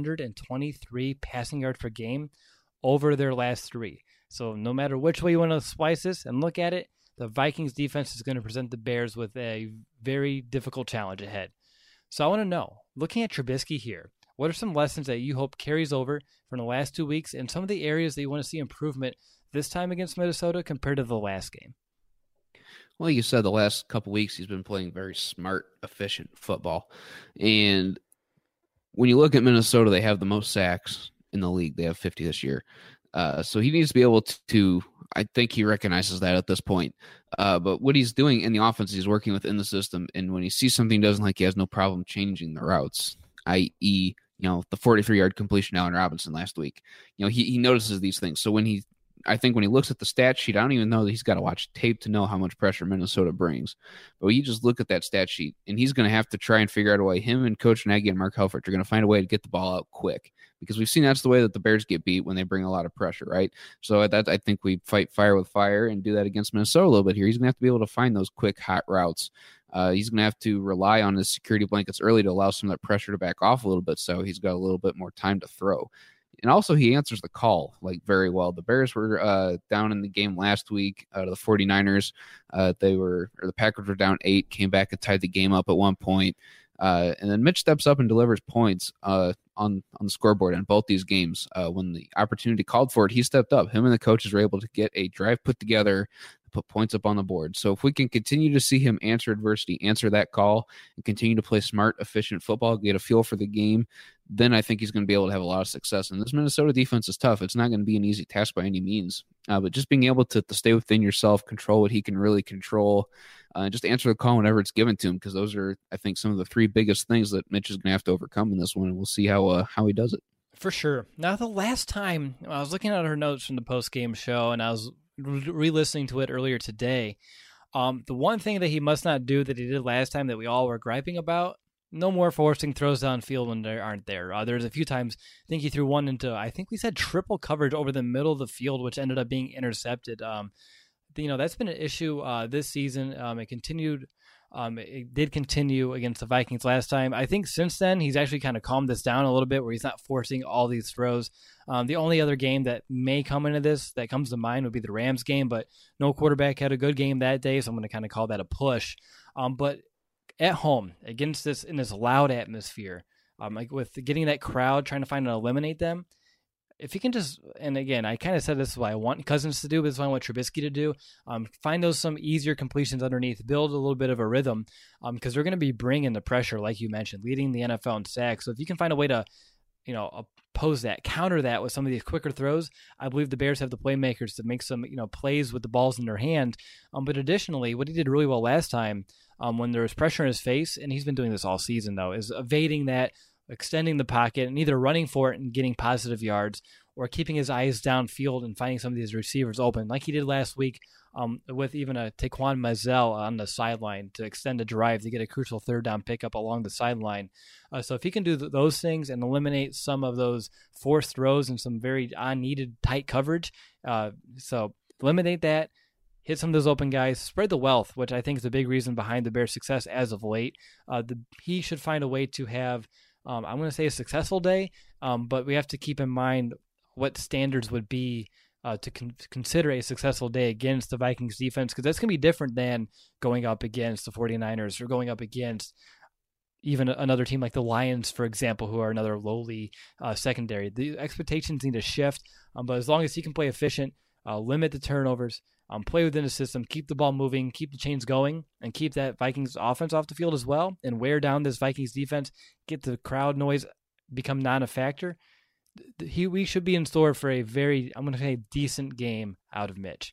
123 passing yards per game over their last 3. So no matter which way you want to slice this and look at it, the Vikings defense is going to present the Bears with a very difficult challenge ahead. So I want to know, looking at Trubisky here, what are some lessons that you hope carries over from the last 2 weeks and some of the areas that you want to see improvement this time against Minnesota compared to the last game? Well, you said the last couple weeks he's been playing very smart, efficient football. And when you look at Minnesota, they have the most sacks in the league. They have 50 this year. So he needs to be able to I think he recognizes that at this point. But what he's doing in the offense, he's working within the system. And when he sees something he doesn't like, he has no problem changing the routes, i.e., the 43-yard completion to Allen Robinson last week. He notices these things. So I think when he looks at the stat sheet, I don't even know that he's got to watch tape to know how much pressure Minnesota brings. But you just look at that stat sheet, and he's going to have to try and figure out a way. Him and Coach Nagy and Mark Helfrich are going to find a way to get the ball out quick, because we've seen that's the way that the Bears get beat when they bring a lot of pressure, right? So I think we fight fire with fire and do that against Minnesota a little bit here. He's going to have to be able to find those quick, hot routes. He's going to have to rely on his security blankets early to allow some of that pressure to back off a little bit, so he's got a little bit more time to throw. And also he answers the call like very well. The Bears were down in the game last week to the 49ers. The Packers were down 8, came back and tied the game up at one point. And then Mitch steps up and delivers points on the scoreboard in both these games. When the opportunity called for it, he stepped up. Him and the coaches were able to get a drive put together, put points up on the board. So if we can continue to see him answer adversity, answer that call, and continue to play smart, efficient football, get a feel for the game, then I think he's going to be able to have a lot of success. And this Minnesota defense is tough. It's not going to be an easy task by any means. But just being able to stay within yourself, control what he can really control, just answer the call whenever it's given to him, because those are, I think, some of the 3 biggest things that Mitch is going to have to overcome in this one. And we'll see how he does it. For sure. Now, the last time I was looking at her notes from the post-game show, and I was re-listening to it earlier today, the one thing that he must not do that he did last time that we all were griping about, no more forcing throws downfield when they aren't there. There's a few times, I think he threw one into, I think we said triple coverage over the middle of the field, which ended up being intercepted. That's been an issue this season. It did continue against the Vikings last time. I think since then, he's actually kind of calmed this down a little bit where he's not forcing all these throws. The only other game that may come into this that comes to mind would be the Rams game, but no quarterback had a good game that day, so I'm going to kind of call that a push. But at home, against this, in this loud atmosphere, like with getting that crowd, trying to find and eliminate them, if he can just, and again, I kind of said this is what I want Cousins to do, but this is what I want Trubisky to do. Find those some easier completions underneath, build a little bit of a rhythm, because they're going to be bringing the pressure, like you mentioned, leading the NFL in sacks. So if you can find a way to, oppose that, counter that with some of these quicker throws, I believe the Bears have the playmakers to make some, plays with the balls in their hand. But additionally, what he did really well last time, when there was pressure in his face, and he's been doing this all season though, is evading that, extending the pocket, and either running for it and getting positive yards, or keeping his eyes downfield and finding some of these receivers open, like he did last week with even a Taquan Mazel on the sideline to extend a drive to get a crucial third down pickup along the sideline. So if he can do those things and eliminate some of those forced throws and some very unneeded tight coverage, so eliminate that, hit some of those open guys, spread the wealth, which I think is a big reason behind the Bears' success as of late. He should find a way to have, I'm going to say a successful day, but we have to keep in mind what standards would be to consider a successful day against the Vikings defense, because that's going to be different than going up against the 49ers or going up against even another team like the Lions, for example, who are another lowly secondary. The expectations need to shift, but as long as he can play efficient, limit the turnovers, play within the system, keep the ball moving, keep the chains going, and keep that Vikings offense off the field as well, and wear down this Vikings defense, get the crowd noise become non-a-factor, we should be in store for a very, I'm going to say, decent game out of Mitch.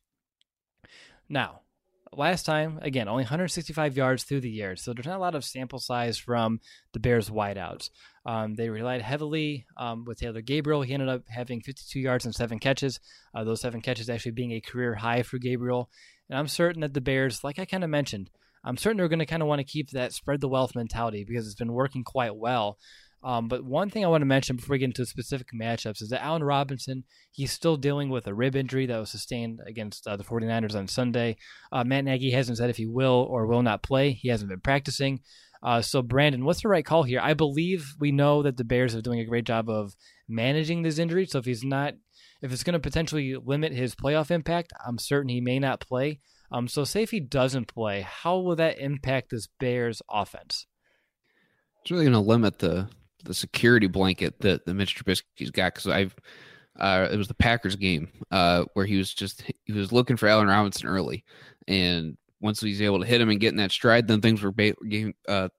Now, last time, again, only 165 yards through the air, so there's not a lot of sample size from the Bears wideouts. They relied heavily with Taylor Gabriel. He ended up having 52 yards and 7 catches, those 7 catches actually being a career high for Gabriel. And I'm certain that the Bears, like I kind of mentioned, I'm certain they're going to kind of want to keep that spread the wealth mentality because it's been working quite well. But one thing I want to mention before we get into specific matchups is that Allen Robinson, he's still dealing with a rib injury that was sustained against the 49ers on Sunday. Matt Nagy hasn't said if he will or will not play. He hasn't been practicing. So, Brandon, what's the right call here? I believe we know that the Bears are doing a great job of managing this injury. So if it's going to potentially limit his playoff impact, I'm certain he may not play. So say if he doesn't play, how will that impact this Bears offense? It's really going to limit the security blanket that Mitch Trubisky's got, because it was the Packers game where he was looking for Allen Robinson early, and once he's able to hit him and get in that stride, then things were being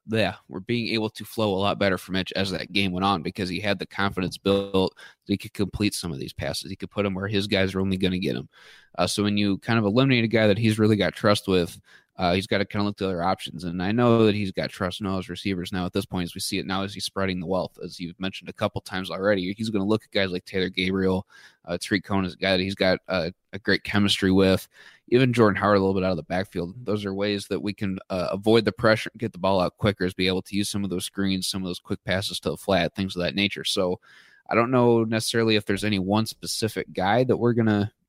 able to flow a lot better for Mitch as that game went on, because he had the confidence built that he could complete some of these passes. He could put them where his guys are only going to get him. So when you kind of eliminate a guy that he's really got trust with, he's got to kind of look to other options. And I know that he's got trust in all his receivers now at this point, as we see it now as he's spreading the wealth. As you've mentioned a couple times already, he's going to look at guys like Taylor Gabriel. Tariq Cohen is a guy that he's got a great chemistry with. Even Jordan Howard a little bit out of the backfield. Those are ways that we can avoid the pressure and get the ball out quicker, is be able to use some of those screens, some of those quick passes to the flat, things of that nature. So I don't know necessarily if there's any one specific guy that we're going to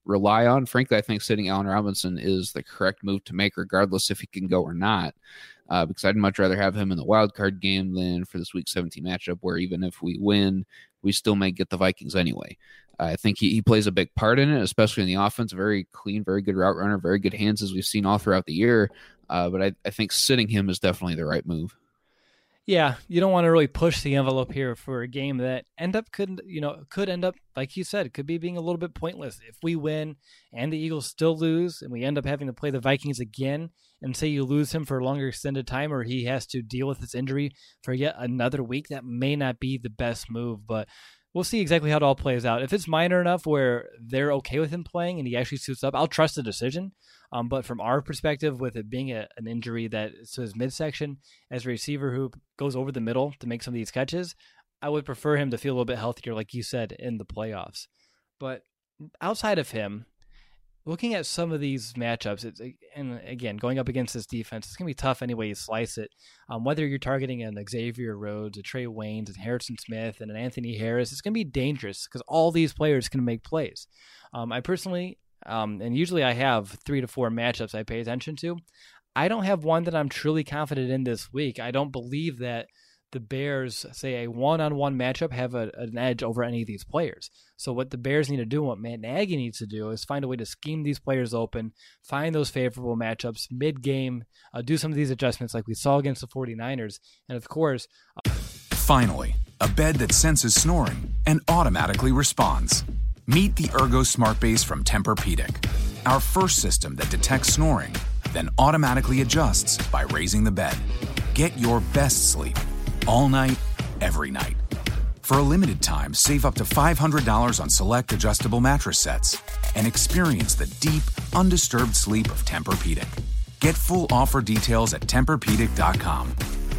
rely on. Frankly, I think sitting Allen Robinson is the correct move to make, regardless if he can go or not. Because I'd much rather have him in the wild card game than for this Week 17 matchup, where even if we win, we still may get the Vikings anyway. I think he plays a big part in it, especially in the offense. Very clean, very good route runner, very good hands, as we've seen all throughout the year. But I think sitting him is definitely the right move. Yeah, you don't want to really push the envelope here for a game that could end up, like you said, could be being a little bit pointless. If we win and the Eagles still lose and we end up having to play the Vikings again, and say you lose him for a longer extended time, or he has to deal with his injury for yet another week, that may not be the best move, but we'll see exactly how it all plays out. If it's minor enough where they're okay with him playing and he actually suits up, I'll trust the decision. But from our perspective, with it being an injury that is to his midsection, as a receiver who goes over the middle to make some of these catches, I would prefer him to feel a little bit healthier, like you said, in the playoffs. But outside of him, looking at some of these matchups, and again, going up against this defense, it's going to be tough any way you slice it. Whether you're targeting an Xavier Rhodes, a Trey Waynes, and Harrison Smith, and an Anthony Harris, it's going to be dangerous because all these players can make plays. I personally, and usually I have 3 to 4 matchups I pay attention to. I don't have one that I'm truly confident in this week. I don't believe that the Bears, say a one-on-one matchup, have an edge over any of these players. So what the Bears need to do, what Matt Nagy needs to do, is find a way to scheme these players open, find those favorable matchups mid-game, do some of these adjustments like we saw against the 49ers, and of course... Finally, a bed that senses snoring and automatically responds. Meet the Ergo Smart Base from Tempur-Pedic, our first system that detects snoring, then automatically adjusts by raising the bed. Get your best sleep all night, every night. For a limited time, save up to $500 on select adjustable mattress sets and experience the deep, undisturbed sleep of Tempur-Pedic. Get full offer details at TempurPedic.com.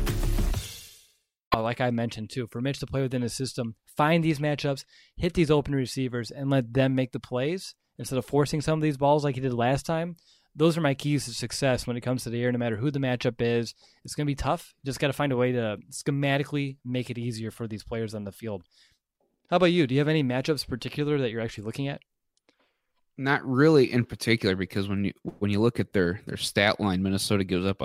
Like I mentioned too, for Mitch to play within his system, find these matchups, hit these open receivers, and let them make the plays instead of forcing some of these balls like he did last time. Those are my keys to success when it comes to the air, no matter who the matchup is. It's going to be tough. You just got to find a way to schematically make it easier for these players on the field. How about you? Do you have any matchups particular that you're actually looking at? Not really in particular, because when you look at their stat line, Minnesota gives up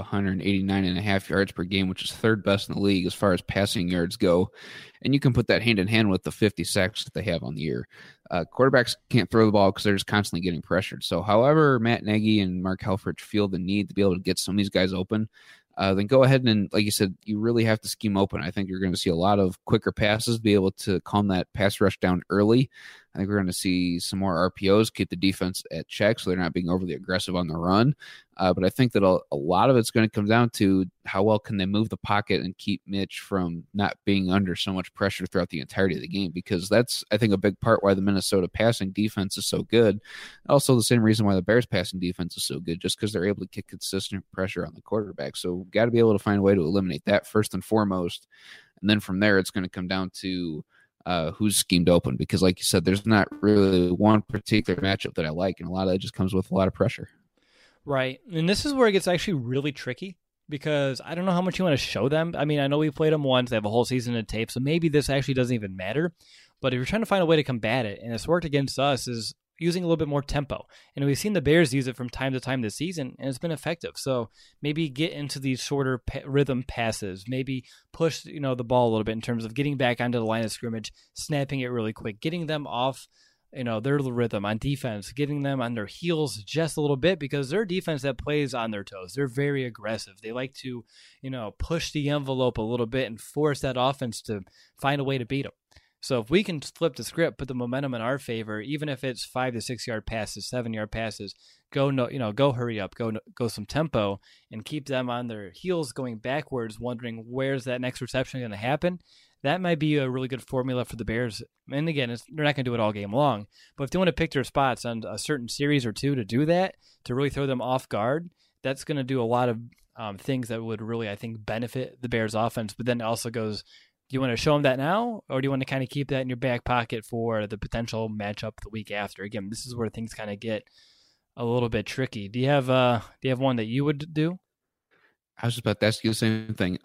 189.5 yards per game, which is third best in the league as far as passing yards go. And you can put that hand in hand with the 50 sacks that they have on the year. Quarterbacks can't throw the ball because they're just constantly getting pressured. So however Matt Nagy and Mark Helfrich feel the need to be able to get some of these guys open, then go ahead and, like you said, you really have to scheme open. I think you're going to see a lot of quicker passes, be able to calm that pass rush down early. I think we're going to see some more RPOs, keep the defense at check so they're not being overly aggressive on the run. But I think that a lot of it's going to come down to how well can they move the pocket and keep Mitch from not being under so much pressure throughout the entirety of the game, because that's, I think, a big part why the Minnesota passing defense is so good. Also the same reason why the Bears passing defense is so good, just because they're able to get consistent pressure on the quarterback. So got to be able to find a way to eliminate that first and foremost. And then from there, it's going to come down to who's schemed open, because like you said, there's not really one particular matchup that I like, and a lot of that just comes with a lot of pressure. Right. And this is where it gets actually really tricky, because I don't know how much you want to show them. I mean, I know we played them once, they have a whole season of tape, so maybe this actually doesn't even matter. But if you're trying to find a way to combat it, and it's worked against us, is using a little bit more tempo. And we've seen the Bears use it from time to time this season, and it's been effective. So maybe get into these shorter rhythm passes, maybe push the ball a little bit in terms of getting back onto the line of scrimmage, snapping it really quick, getting them off their rhythm on defense, getting them on their heels just a little bit, because they're a defense that plays on their toes. They're very aggressive. They like to, push the envelope a little bit and force that offense to find a way to beat them. So if we can flip the script, put the momentum in our favor, even if it's 5 to 6 yard passes, 7 yard passes, go hurry up, go some tempo, and keep them on their heels going backwards, wondering where's that next reception going to happen. That might be a really good formula for the Bears. And again, they're not going to do it all game long, but if they want to pick their spots on a certain series or two to do that, to really throw them off guard, that's going to do a lot of things that would really, I think, benefit the Bears offense. But then it also goes, do you want to show them that now, or do you want to kind of keep that in your back pocket for the potential matchup the week after? Again, this is where things kind of get a little bit tricky. Do you have one that you would do? I was just about to ask you the same thing.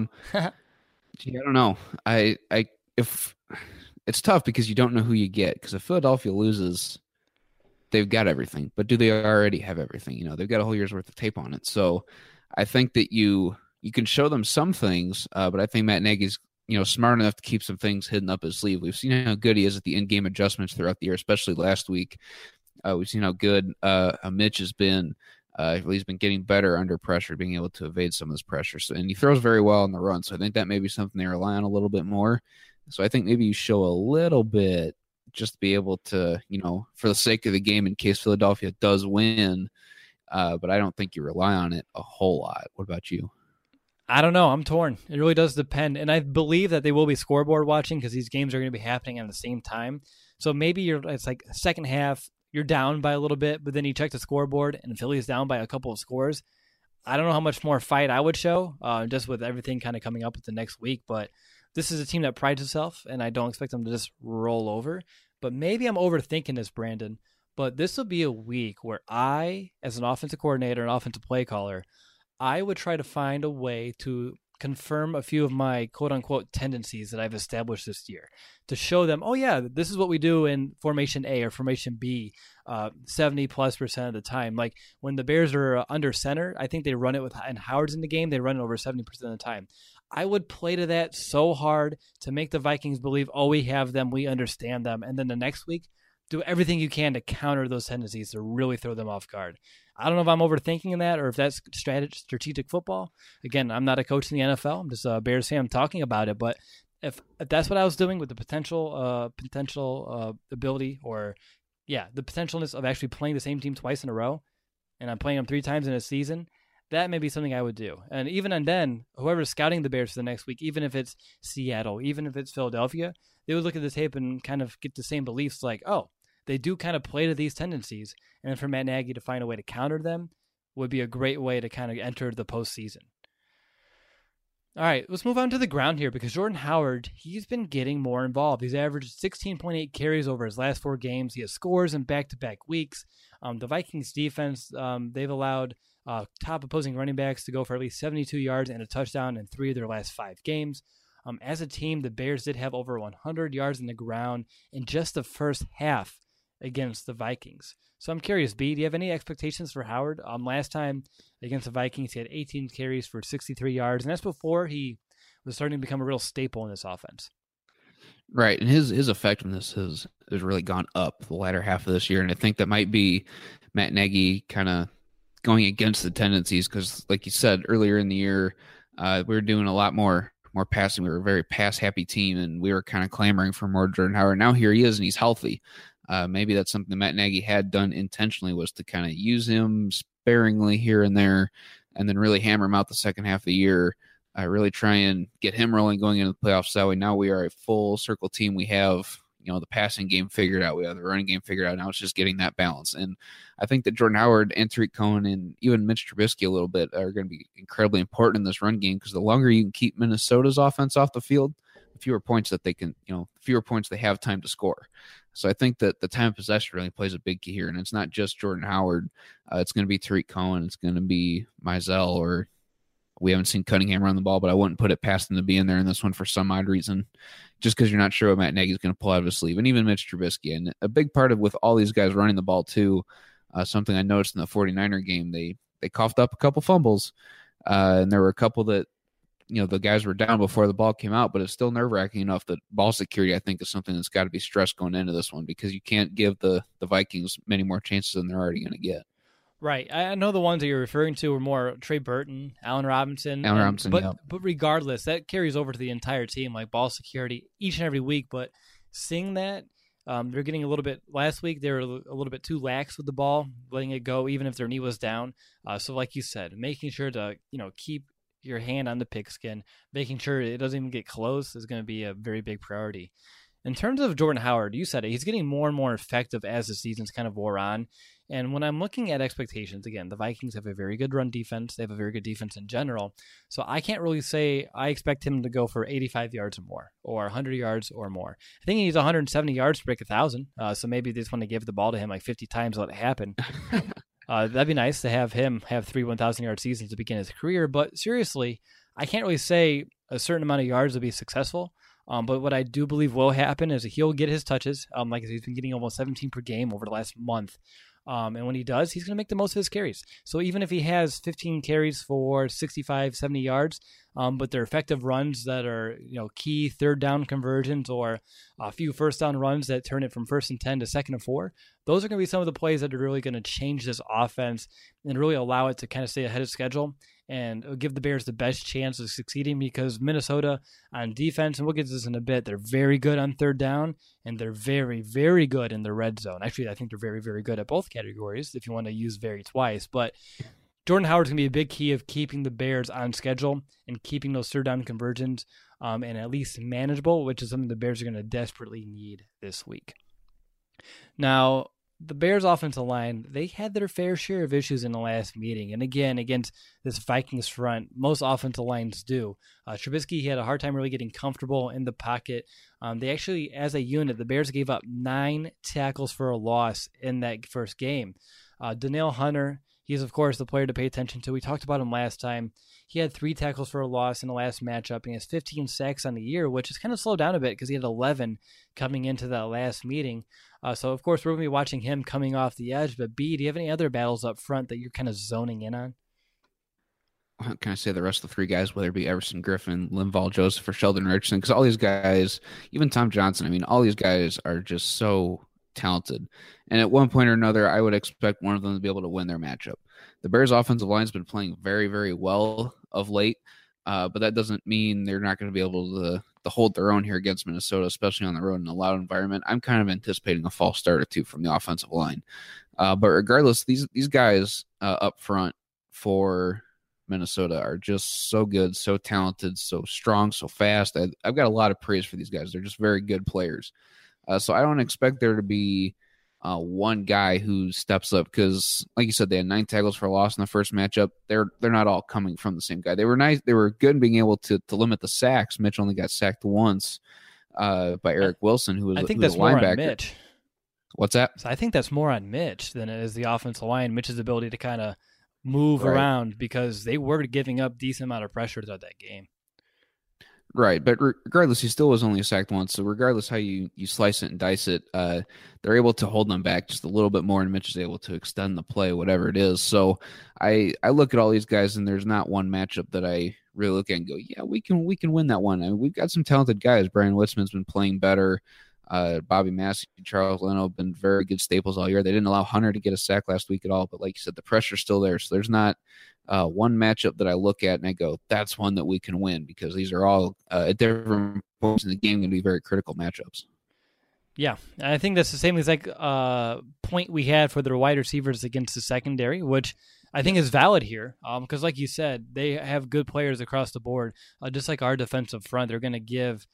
Gee, I don't know. If it's tough because you don't know who you get. Because if Philadelphia loses, they've got everything, but do they already have everything? They've got a whole year's worth of tape on it. So I think that you can show them some things, but I think Matt Nagy's smart enough to keep some things hidden up his sleeve. We've seen how good he is at the in-game adjustments throughout the year, especially last week. We've seen how good Mitch has been. He's been getting better under pressure, being able to evade some of this pressure. So, and he throws very well on the run. So I think that may be something they rely on a little bit more. So I think maybe you show a little bit just to be able to, for the sake of the game, in case Philadelphia does win. But I don't think you rely on it a whole lot. What about you? I don't know. I'm torn. It really does depend. And I believe that they will be scoreboard watching because these games are going to be happening at the same time. So maybe it's like second half, you're down by a little bit, but then you check the scoreboard and Philly's down by a couple of scores. I don't know how much more fight I would show, just with everything kind of coming up with the next week. But this is a team that prides itself, and I don't expect them to just roll over. But maybe I'm overthinking this, Brandon. But this will be a week where I, as an offensive coordinator and offensive play caller, I would try to find a way to confirm a few of my quote-unquote tendencies that I've established this year to show them, oh, yeah, this is what we do in Formation A or Formation B 70+% of the time. Like when the Bears are under center, I think they run it and Howard's in the game, they run it over 70% of the time. I would play to that so hard to make the Vikings believe, oh, we have them, we understand them. And then the next week, do everything you can to counter those tendencies to really throw them off guard. I don't know if I'm overthinking that or if that's strategic football. Again, I'm not a coach in the NFL. I'm just a Bears fan talking about it. But if that's what I was doing with the potential ability or, the potentialness of actually playing the same team twice in a row, and I'm playing them 3 times in a season, that may be something I would do. And then, whoever's scouting the Bears for the next week, even if it's Seattle, even if it's Philadelphia, they would look at the tape and kind of get the same beliefs like, oh, they do kind of play to these tendencies. And then for Matt Nagy to find a way to counter them would be a great way to kind of enter the postseason. All right, let's move on to the ground here because Jordan Howard, he's been getting more involved. He's averaged 16.8 carries over his last 4 games. He has scores in back-to-back weeks. The Vikings defense, they've allowed top opposing running backs to go for at least 72 yards and a touchdown in 3 of their last 5 games. As a team, the Bears did have over 100 yards in the ground in just the first half against the Vikings. So I'm curious, B, do you have any expectations for Howard? Last time against the Vikings, he had 18 carries for 63 yards, and that's before he was starting to become a real staple in this offense. Right, and his effectiveness has really gone up the latter half of this year, and I think that might be Matt Nagy kind of going against the tendencies because, like you said, earlier in the year, we were doing a lot more passing. We were a very pass-happy team, and we were kind of clamoring for more Jordan Howard. Now here he is, and he's healthy. Maybe that's something Matt Nagy had done intentionally was to kind of use him sparingly here and there and then really hammer him out the second half of the year, really try and get him rolling going into the playoffs that way. Now we are a full circle team. We have, the passing game figured out. We have the running game figured out. Now it's just getting that balance. And I think that Jordan Howard and Tariq Cohen and even Mitch Trubisky a little bit are going to be incredibly important in this run game because the longer you can keep Minnesota's offense off the field, the fewer points that they can, fewer points they have time to score. So I think that the time of possession really plays a big key here. And it's not just Jordan Howard. It's going to be Tariq Cohen. It's going to be Mizell, or we haven't seen Cunningham run the ball, but I wouldn't put it past him to be in there in this one for some odd reason, just because you're not sure what Matt Nagy's going to pull out of his sleeve. And even Mitch Trubisky. And a big part of with all these guys running the ball too, something I noticed in the 49er game, they coughed up a couple fumbles. And there were a couple that, the guys were down before the ball came out, but it's still nerve-wracking enough that ball security, I think, is something that's got to be stressed going into this one because you can't give the Vikings many more chances than they're already going to get. Right. I know the ones that you're referring to were more Trey Burton, Allen Robinson. But regardless, that carries over to the entire team, like ball security each and every week. But seeing that, they're getting a little bit – last week they were a little bit too lax with the ball, letting it go even if their knee was down. So like you said, making sure to, keep your hand on the pigskin, making sure it doesn't even get close is going to be a very big priority. In terms of Jordan Howard, you said it, he's getting more and more effective as the season's kind of wore on. And when I'm looking at expectations, again, the Vikings have a very good run defense. They have a very good defense in general. So I can't really say I expect him to go for 85 yards or more or 100 yards or more. I think he needs 170 yards to break 1,000. So maybe they just want to give the ball to him like 50 times, let it happen. That'd be nice to have him have 3 1,000-yard seasons to begin his career. But seriously, I can't really say a certain amount of yards will be successful. But what I do believe will happen is he'll get his touches. Like I said, he's been getting almost 17 per game over the last month. And when he does, he's going to make the most of his carries. So even if he has 15 carries for 65, 70 yards, but they're effective runs that are, key third down conversions or a few first down runs that turn it from 1st and 10 to 2nd and 4, those are going to be some of the plays that are really going to change this offense and really allow it to kind of stay ahead of schedule and give the Bears the best chance of succeeding, because Minnesota on defense, and we'll get to this in a bit, they're very good on third down, and they're very, very good in the red zone. Actually, I think they're very, very good at both categories, if you want to use very twice. But Jordan Howard's going to be a big key of keeping the Bears on schedule and keeping those third down conversions and at least manageable, which is something the Bears are going to desperately need this week. Now, the Bears' offensive line, they had their fair share of issues in the last meeting. And again, against this Vikings front, most offensive lines do. Trubisky, he had a hard time really getting comfortable in the pocket. They actually, as a unit, the Bears gave up 9 tackles for a loss in that first game. Danielle Hunter, he's, of course, the player to pay attention to. We talked about him last time. He had 3 tackles for a loss in the last matchup, and he has 15 sacks on the year, which is kind of slowed down a bit because he had 11 coming into that last meeting. So, of course, we're going to be watching him coming off the edge. But, B, do you have any other battles up front that you're kind of zoning in on? Can I say the rest of the 3 guys, whether it be Everson Griffin, Linval Joseph, or Sheldon Richardson? Because all these guys, even Tom Johnson, I mean, all these guys are just so talented. And at one point or another, I would expect one of them to be able to win their matchup. The Bears' offensive line has been playing very, very well of late, but that doesn't mean they're not going to be able to hold their own here against Minnesota, especially on the road in a loud environment. I'm kind of anticipating a false start or 2 from the offensive line. But regardless, these guys up front for Minnesota are just so good, so talented, so strong, so fast. I've got a lot of praise for these guys. They're just very good players. So I don't expect there to be one guy who steps up because, like you said, they had 9 tackles for a loss in the first matchup. They're not all coming from the same guy. They were nice. They were good in being able to limit the sacks. Mitch only got sacked once by Eric Wilson, who was I think that's more linebacker. on Mitch. What's that? So I think that's more on Mitch than it is the offensive line. Mitch's ability to kind of move Right. around, because they were giving up decent amount of pressure throughout that game. Right, but regardless, he still was only sacked once. So regardless how you slice it and dice it, they're able to hold them back just a little bit more, and Mitch is able to extend the play, whatever it is. So I look at all these guys, and there's not one matchup that I really look at and go, yeah, we can win that one. I mean, we've got some talented guys. Brian Witzman's been playing better. Bobby Massey, Charles Leno have been very good staples all year. They didn't allow Hunter to get a sack last week at all, but like you said, the pressure's still there. So there's not one matchup that I look at and I go, that's one that we can win, because these are all at different points in the game going to be very critical matchups. Yeah, and I think that's the same exact point we had for the wide receivers against the secondary, which I think is valid here, because like you said, they have good players across the board. Just like our defensive front, they're going to give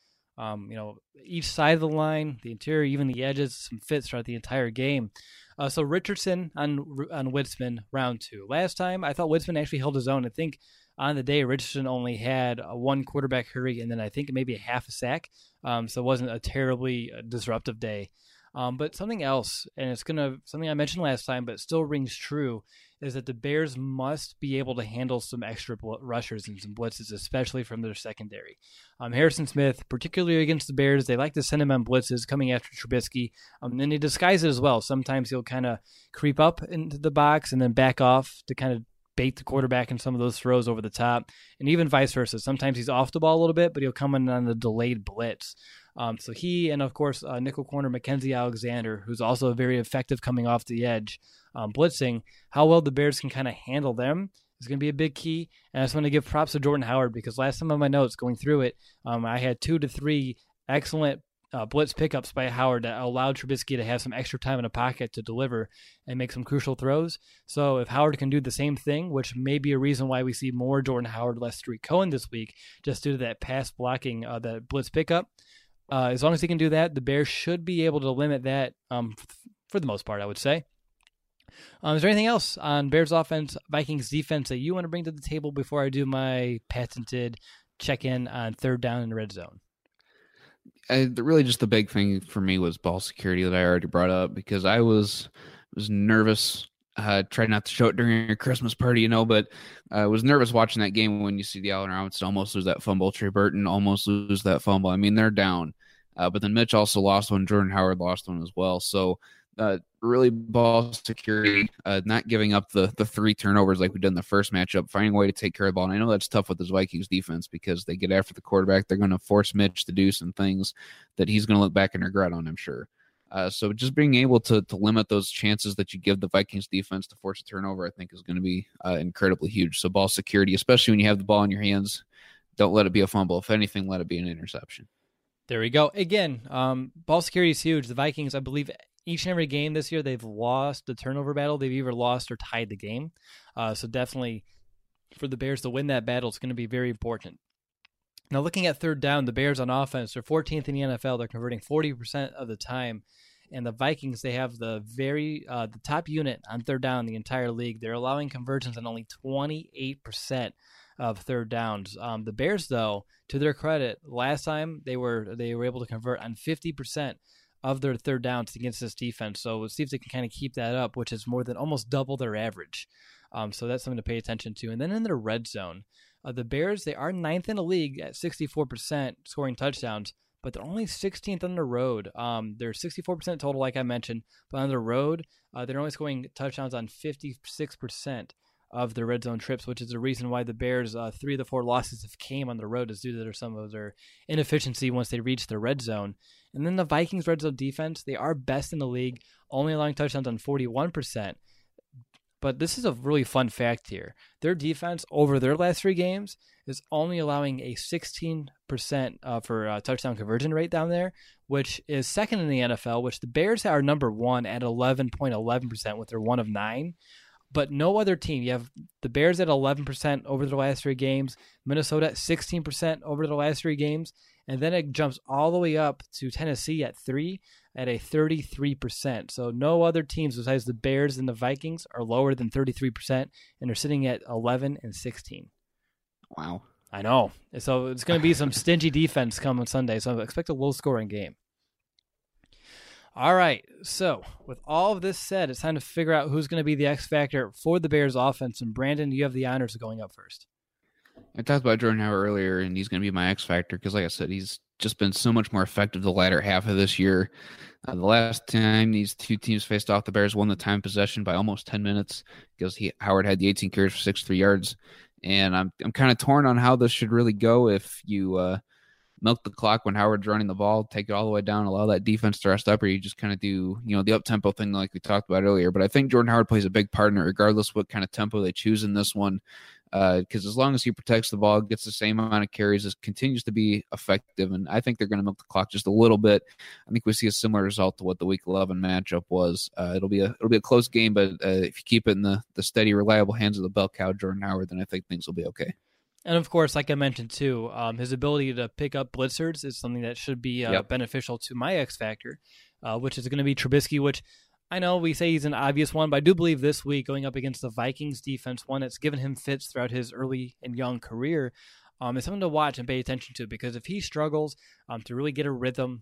each side of the line, the interior, even the edges, some fits throughout the entire game. So Richardson on Witzman, round 2. Last time, I thought Witzman actually held his own. I think on the day, Richardson only had 1 quarterback hurry, and then I think maybe a half a sack. So it wasn't a terribly disruptive day. But something else, and it's something I mentioned last time, but it still rings true, is that the Bears must be able to handle some extra rushers and some blitzes, especially from their secondary. Harrison Smith, particularly against the Bears, they like to send him on blitzes coming after Trubisky, and they disguise it as well. Sometimes he'll kind of creep up into the box and then back off to kind of bait the quarterback in some of those throws over the top, and even vice versa. Sometimes he's off the ball a little bit, but he'll come in on the delayed blitz. So he, and of course, nickel corner Mackenzie Alexander, who's also very effective coming off the edge, blitzing. How well the Bears can kind of handle them is going to be a big key. And I just want to give props to Jordan Howard, because last time on my notes going through it, I had 2 to 3 excellent blitz pickups by Howard that allowed Trubisky to have some extra time in the pocket to deliver and make some crucial throws. So if Howard can do the same thing, which may be a reason why we see more Jordan Howard, less Tariq Cohen this week, just due to that pass blocking, that blitz pickup, as long as he can do that, the Bears should be able to limit that for the most part, I would say. Is there anything else on Bears offense, Vikings defense that you want to bring to the table before I do my patented check-in on third down in the red zone? Really just the big thing for me was ball security that I already brought up, because I was nervous Try not to show it during your Christmas party, but I was nervous watching that game when you see the Allen Robinson almost lose that fumble, Trey Burton almost lose that fumble. I mean, they're down. But then Mitch also lost one. Jordan Howard lost one as well. So really ball security, not giving up the 3 turnovers like we did in the first matchup, finding a way to take care of the ball. And I know that's tough with this Vikings defense because they get after the quarterback. They're going to force Mitch to do some things that he's going to look back and regret on, I'm sure. So just being able to limit those chances that you give the Vikings defense to force a turnover, I think is going to be incredibly huge. So ball security, especially when you have the ball in your hands, don't let it be a fumble. If anything, let it be an interception. There we go. Again, ball security is huge. The Vikings, I believe, each and every game this year, they've lost the turnover battle. They've either lost or tied the game. So definitely for the Bears to win that battle, it's going to be very important. Now, looking at third down, the Bears on offense, they're 14th in the NFL. They're converting 40% of the time. And the Vikings, they have the top unit on third down in the entire league. They're allowing conversions on only 28% of third downs. The Bears, though, to their credit, last time they were able to convert on 50% of their third downs against this defense. So we'll see if they can kind of keep that up, which is more than almost double their average. So that's something to pay attention to. And then in their red zone, the Bears, they are 9th in the league at 64% scoring touchdowns, but they're only 16th on the road. They're 64% total, like I mentioned, but on the road, they're only scoring touchdowns on 56% of their red zone trips, which is the reason why the Bears, 3 of the 4 losses have came on the road is due to some of their inefficiency once they reach the red zone. And then the Vikings red zone defense, they are best in the league, only allowing touchdowns on 41%. But this is a really fun fact here. Their defense over their last 3 games is only allowing a 16% for touchdown conversion rate down there, which is second in the NFL, which the Bears are number 1 at 11.11% with their 1 of 9. But no other team. You have the Bears at 11% over the last 3 games, Minnesota at 16% over the last 3 games, and then it jumps all the way up to Tennessee at 3 at a 33%. So no other teams besides the Bears and the Vikings are lower than 33%, and they're sitting at 11 and 16. Wow. I know. So it's going to be some stingy defense coming Sunday, so I expect a low-scoring game. All right, so with all of this said, it's time to figure out who's going to be the X factor for the Bears offense. And Brandon, you have the honors of going up first. I talked about Jordan Howard earlier, and he's going to be my X factor because, like I said, he's just been so much more effective the latter half of this year. The last time these 2 teams faced off, the Bears won the time possession by almost 10 minutes because Howard had the 18 carries for 63 yards. And I'm kind of torn on how this should really go if you milk the clock when Howard's running the ball, take it all the way down, allow that defense to rest up, or you just kind of do, the up-tempo thing like we talked about earlier. But I think Jordan Howard plays a big part in it, regardless what kind of tempo they choose in this one, because as long as he protects the ball, gets the same amount of carries, it continues to be effective, and I think they're going to milk the clock just a little bit. I think we see a similar result to what the Week 11 matchup was. It'll be a close game, but if you keep it in the steady, reliable hands of the bell cow, Jordan Howard, then I think things will be okay. And, of course, like I mentioned, too, his ability to pick up blitzers is something that should be beneficial to my X factor, which is going to be Trubisky, which I know we say he's an obvious one, but I do believe this week going up against the Vikings defense, one that's given him fits throughout his early and young career, is something to watch and pay attention to, because if he struggles to really get a rhythm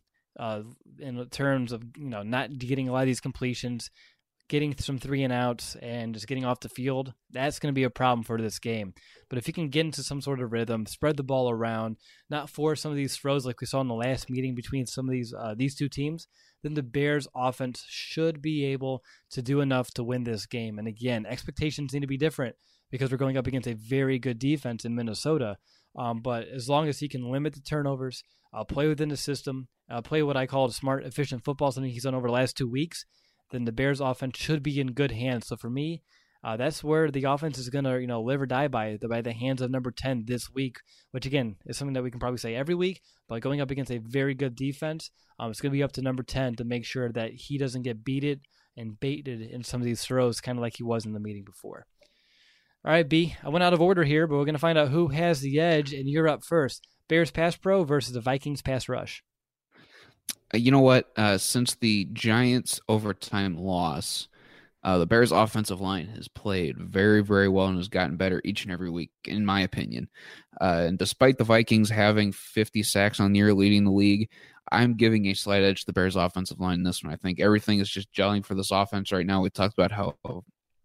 in terms of not getting a lot of these completions, getting some 3-and-outs and just getting off the field, that's going to be a problem for this game. But if he can get into some sort of rhythm, spread the ball around, not force some of these throws like we saw in the last meeting between some of these 2 teams, then the Bears offense should be able to do enough to win this game. And again, expectations need to be different because we're going up against a very good defense in Minnesota. But as long as he can limit the turnovers, play within the system, play what I call smart, efficient football, something he's done over the last 2 weeks, then the Bears offense should be in good hands. So for me, that's where the offense is going to, live or die by the hands of number 10 this week, which again is something that we can probably say every week, but going up against a very good defense, it's going to be up to number 10 to make sure that he doesn't get beated and baited in some of these throws, kind of like he was in the meeting before. All right, B, I went out of order here, but we're going to find out who has the edge, and you're up first. Bears pass pro versus the Vikings pass rush. You know what? Since the Giants' overtime loss, the Bears' offensive line has played very, very well and has gotten better each and every week, in my opinion. And despite the Vikings having 50 sacks on the year, leading the league, I'm giving a slight edge to the Bears' offensive line in this one. I think everything is just gelling for this offense right now. We talked about how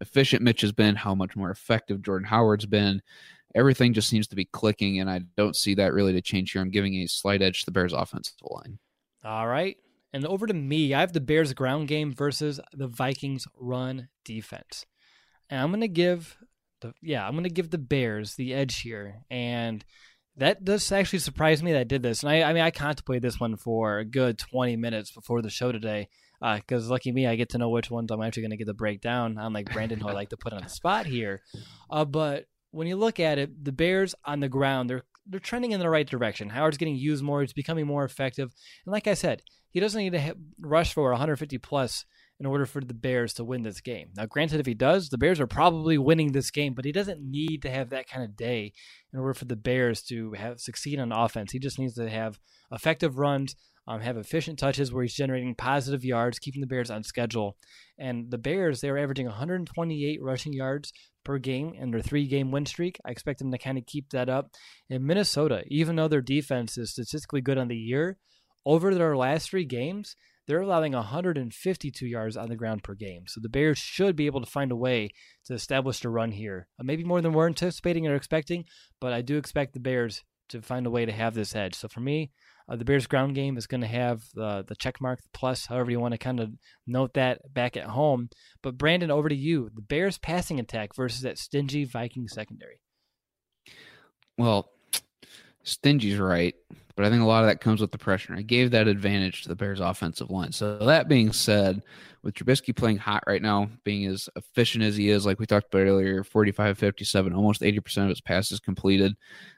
efficient Mitch has been, how much more effective Jordan Howard's been. Everything just seems to be clicking, and I don't see that really to change here. I'm giving a slight edge to the Bears' offensive line. All right. And over to me, I have the Bears ground game versus the Vikings run defense. And I'm going to give the Bears the edge here. And that does actually surprise me that I did this. And I contemplated this one for a good 20 minutes before the show today. Because lucky me, I get to know which ones I'm actually going to get the breakdown. Unlike Brandon, who I like to put on the spot here. But when you look at it, the Bears on the ground, they're trending in the right direction. Howard's getting used more. He's becoming more effective. And like I said, he doesn't need to rush for 150 plus in order for the Bears to win this game. Now, granted, if he does, the Bears are probably winning this game, but he doesn't need to have that kind of day in order for the Bears to succeed on offense. He just needs to have effective runs, have efficient touches where he's generating positive yards, keeping the Bears on schedule. And the Bears, they were averaging 128 rushing yards per game in their 3-game win streak. I expect them to kind of keep that up. In Minnesota, even though their defense is statistically good on the year, over their last 3 games, they're allowing 152 yards on the ground per game. So the Bears should be able to find a way to establish a run here. Maybe more than we're anticipating or expecting, but I do expect the Bears to find a way to have this edge. So for me, the Bears ground game is going to have the check mark, the plus, however you want to kind of note that back at home. But Brandon, over to you. The Bears passing attack versus that stingy Viking secondary. Well, stingy's right, but I think a lot of that comes with the pressure. I gave that advantage to the Bears offensive line. So that being said, with Trubisky playing hot right now, being as efficient as he is, like we talked about earlier, 45-57, almost 80% of his passes completed.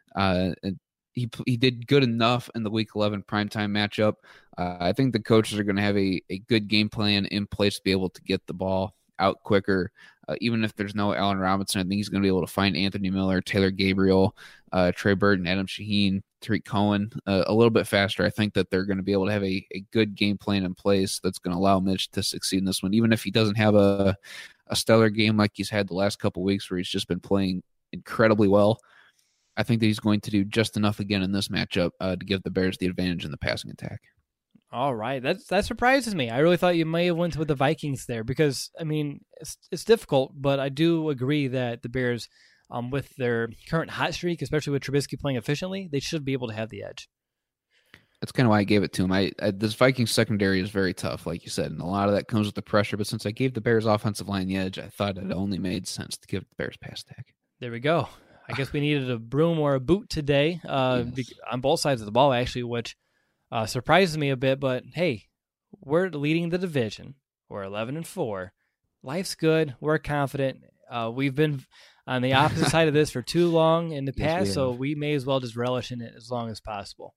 He did good enough in the Week 11 primetime matchup. I think the coaches are going to have a good game plan in place to be able to get the ball out quicker. Even if there's no Allen Robinson, I think he's going to be able to find Anthony Miller, Taylor Gabriel, Trey Burton, Adam Shaheen, Tariq Cohen a little bit faster. I think that they're going to be able to have a good game plan in place that's going to allow Mitch to succeed in this one, even if he doesn't have a stellar game like he's had the last couple of weeks where he's just been playing incredibly well. I think that he's going to do just enough again in this matchup to give the Bears the advantage in the passing attack. All right, that surprises me. I really thought you may have went with the Vikings there because, I mean, it's difficult, but I do agree that the Bears, with their current hot streak, especially with Trubisky playing efficiently, they should be able to have the edge. That's kind of why I gave it to him. This Vikings secondary is very tough, like you said, and a lot of that comes with the pressure. But since I gave the Bears offensive line the edge, I thought it only made sense to give the Bears pass attack. There we go. I guess we needed a broom or a boot today on both sides of the ball, actually, which surprises me a bit. But hey, we're leading the division. We're 11-4. Life's good. We're confident. We've been on the opposite side of this for too long in the past, so we may as well just relish in it as long as possible.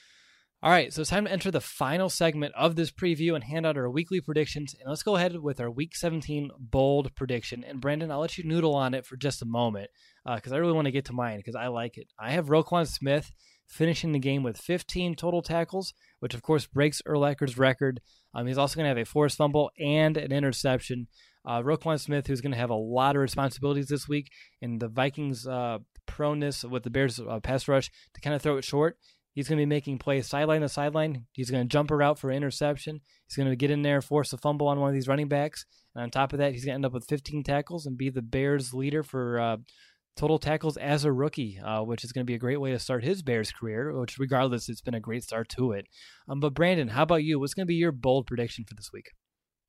All right, so it's time to enter the final segment of this preview and hand out our weekly predictions. And let's go ahead with our Week 17 bold prediction. And Brendan, I'll let you noodle on it for just a moment because I really want to get to mine because I like it. I have Roquan Smith finishing the game with 15 total tackles, which of course breaks Urlacher's record. He's also going to have a forced fumble and an interception. Roquan Smith, who's going to have a lot of responsibilities this week, and the Vikings' proneness with the Bears' pass rush to kind of throw it short. He's going to be making plays sideline to sideline. He's going to jump her out for an interception. He's going to get in there, force a fumble on one of these running backs. And on top of that, he's going to end up with 15 tackles and be the Bears' leader for total tackles as a rookie, which is going to be a great way to start his Bears career, which regardless, it's been a great start to it. But Brandon, how about you? What's going to be your bold prediction for this week?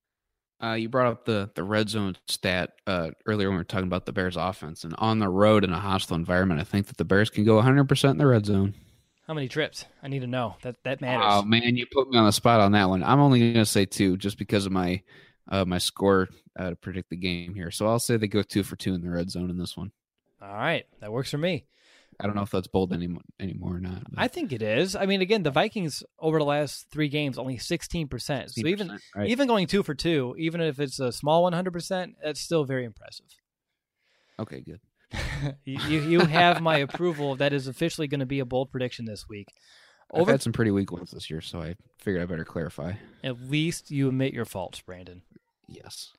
You brought up the red zone stat earlier when we were talking about the Bears' offense. And on the road in a hostile environment, I think that the Bears can go 100% in the red zone. How many trips? I need to know. That matters. Oh, man, you put me on the spot on that one. I'm only going to say 2 just because of my score to predict the game here. So I'll say they go 2 for 2 in the red zone in this one. All right. That works for me. I don't know if that's bold anymore or not. I think it is. I mean, again, the Vikings over the last 3 games, only 16%. So even going 2 for 2, even if it's a small 100%, that's still very impressive. Okay, good. you have my approval. That is officially going to be a bold prediction this week. I've had some pretty weak ones this year, so I figured I better clarify. At least you admit your faults, Brandon. Yes.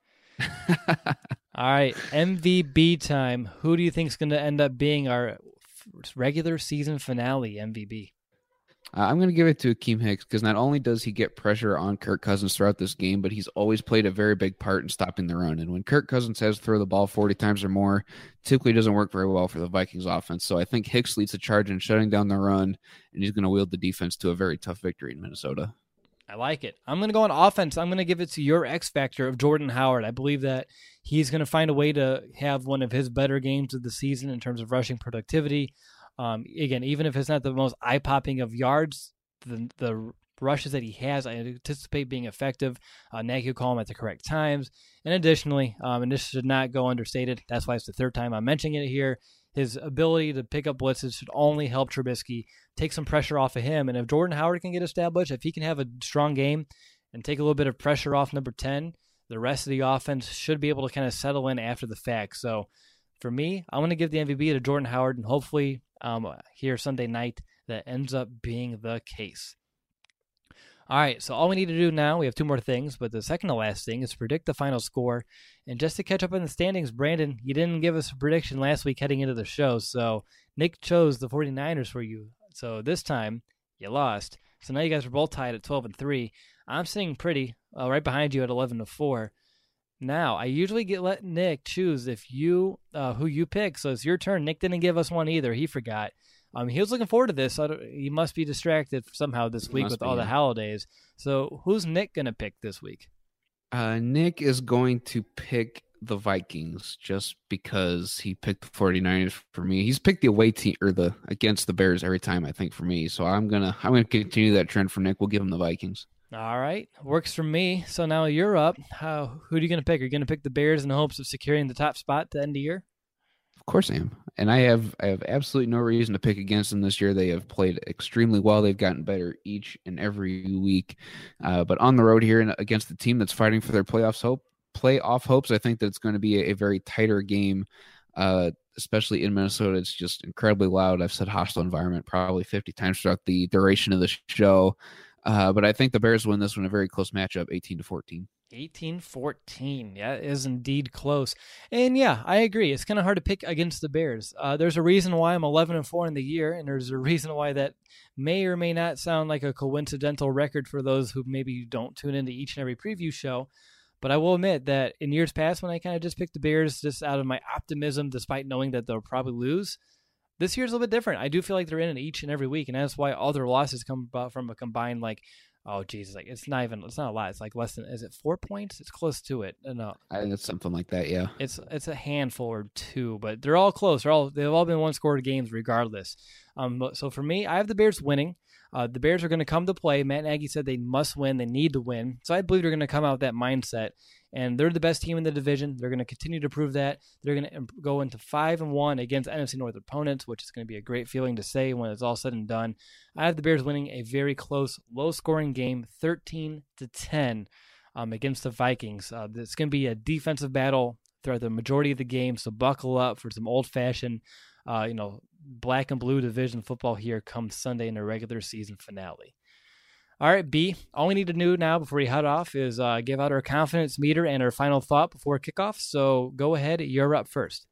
All right, MVB time. Who do you think is going to end up being our regular season finale MVP? I'm going to give it to Akeem Hicks because not only does he get pressure on Kirk Cousins throughout this game, but he's always played a very big part in stopping the run. And when Kirk Cousins has to throw the ball 40 times or more, typically doesn't work very well for the Vikings offense. So I think Hicks leads the charge in shutting down the run, and he's going to wield the defense to a very tough victory in Minnesota. I like it. I'm going to go on offense. I'm going to give it to your X factor of Jordan Howard. I believe that he's going to find a way to have one of his better games of the season in terms of rushing productivity. Again, even if it's not the most eye-popping of yards, the rushes that he has, I anticipate being effective. Nagy will call him at the correct times. And additionally, and this should not go understated, that's why it's the third time I'm mentioning it here, his ability to pick up blitzes should only help Trubisky, take some pressure off of him. And if Jordan Howard can get established, if he can have a strong game and take a little bit of pressure off number 10, the rest of the offense should be able to kind of settle in after the fact. So for me, I'm going to give the MVP to Jordan Howard, and hopefully here Sunday night that ends up being the case. All right, so all we need to do now, we have two more things, but the second to last thing is predict the final score. And just to catch up on the standings, Brandon, you didn't give us a prediction last week heading into the show, so Nick chose the 49ers for you. So this time, you lost. So now you guys are both tied at 12-3. I'm sitting pretty right behind you at 11-4. Now, I usually let Nick choose if you who you pick, so it's your turn. Nick didn't give us one either. He forgot. He was looking forward to this. He must be distracted somehow this week with all the holidays. So who's Nick going to pick this week? Nick is going to pick the Vikings just because he picked the 49ers for me. He's picked the away team or the against the Bears every time, I think, for me. So I'm gonna continue that trend for Nick. We'll give him the Vikings. All right. Works for me. So now you're up. Who are you going to pick? Are you going to pick the Bears in the hopes of securing the top spot to end the year? Of course I am. And I have absolutely no reason to pick against them this year. They have played extremely well. They've gotten better each and every week. But on the road here and against the team that's fighting for their playoff hopes, I think that it's going to be a very tighter game, especially in Minnesota. It's just incredibly loud. I've said hostile environment probably 50 times throughout the duration of the show. But I think the Bears win this one, a very close matchup, 18-14. 18-14. Yeah, it is indeed close. And yeah, I agree. It's kind of hard to pick against the Bears. There's a reason why I'm 11-4 in the year, and there's a reason why that may or may not sound like a coincidental record for those who maybe don't tune into each and every preview show. But I will admit that in years past, when I kind of just picked the Bears just out of my optimism, despite knowing that they'll probably lose, this year's a little bit different. I do feel like they're in it each and every week, and that's why all their losses come about from a combined, it's not a lot. It's like less than, is it 4 points? It's close to it. No. I think it's something like that, yeah. It's a handful or two, but they're all close. They've all been one-scored games regardless. So for me, I have the Bears winning. The Bears are going to come to play. Matt Nagy said they must win. They need to win. So I believe they're going to come out with that mindset. And they're the best team in the division. They're going to continue to prove that. They're going to go into 5-1 against NFC North opponents, which is going to be a great feeling to say when it's all said and done. I have the Bears winning a very close, low-scoring game, 13-10 against the Vikings. It's going to be a defensive battle throughout the majority of the game, so buckle up for some old-fashioned, black and blue division football here come Sunday in the regular season finale. All right, B, all we need to do now before we head off is give out our confidence meter and our final thought before kickoff. So go ahead, you're up first.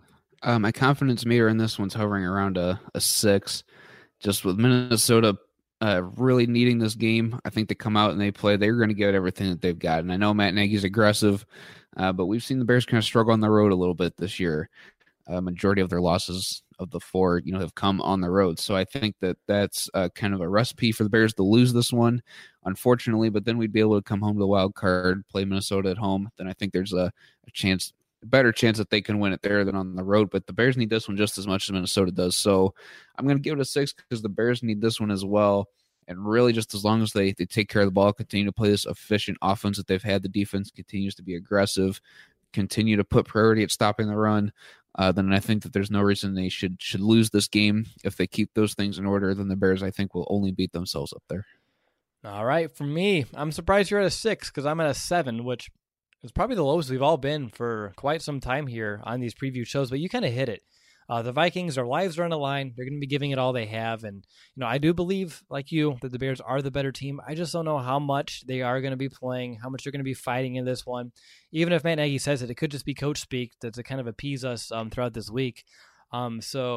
My confidence meter in this one's hovering around a 6. Just with Minnesota really needing this game, I think they come out and they play. They're going to get everything that they've got. And I know Matt Nagy's aggressive, but we've seen the Bears kind of struggle on the road a little bit this year. Majority of their losses of the 4, have come on the road. So I think that that's kind of a recipe for the Bears to lose this one, unfortunately. But then we'd be able to come home to the wild card, play Minnesota at home. Then I think there's a better chance that they can win it there than on the road. But the Bears need this one just as much as Minnesota does. So I'm going to give it a 6 because the Bears need this one as well. And really, just as long as they take care of the ball, continue to play this efficient offense that they've had, the defense continues to be aggressive, continue to put priority at stopping the run, then I think that there's no reason they should lose this game. If they keep those things in order, then the Bears, I think, will only beat themselves up there. All right, for me, I'm surprised you're at a 6 because I'm at a 7, which is probably the lowest we've all been for quite some time here on these preview shows, but you kind of hit it. The Vikings, their lives are on the line. They're going to be giving it all they have. And, I do believe, like you, that the Bears are the better team. I just don't know how much they are going to be playing, how much they're going to be fighting in this one. Even if Matt Nagy says it could just be coach speak to kind of appease us throughout this week. So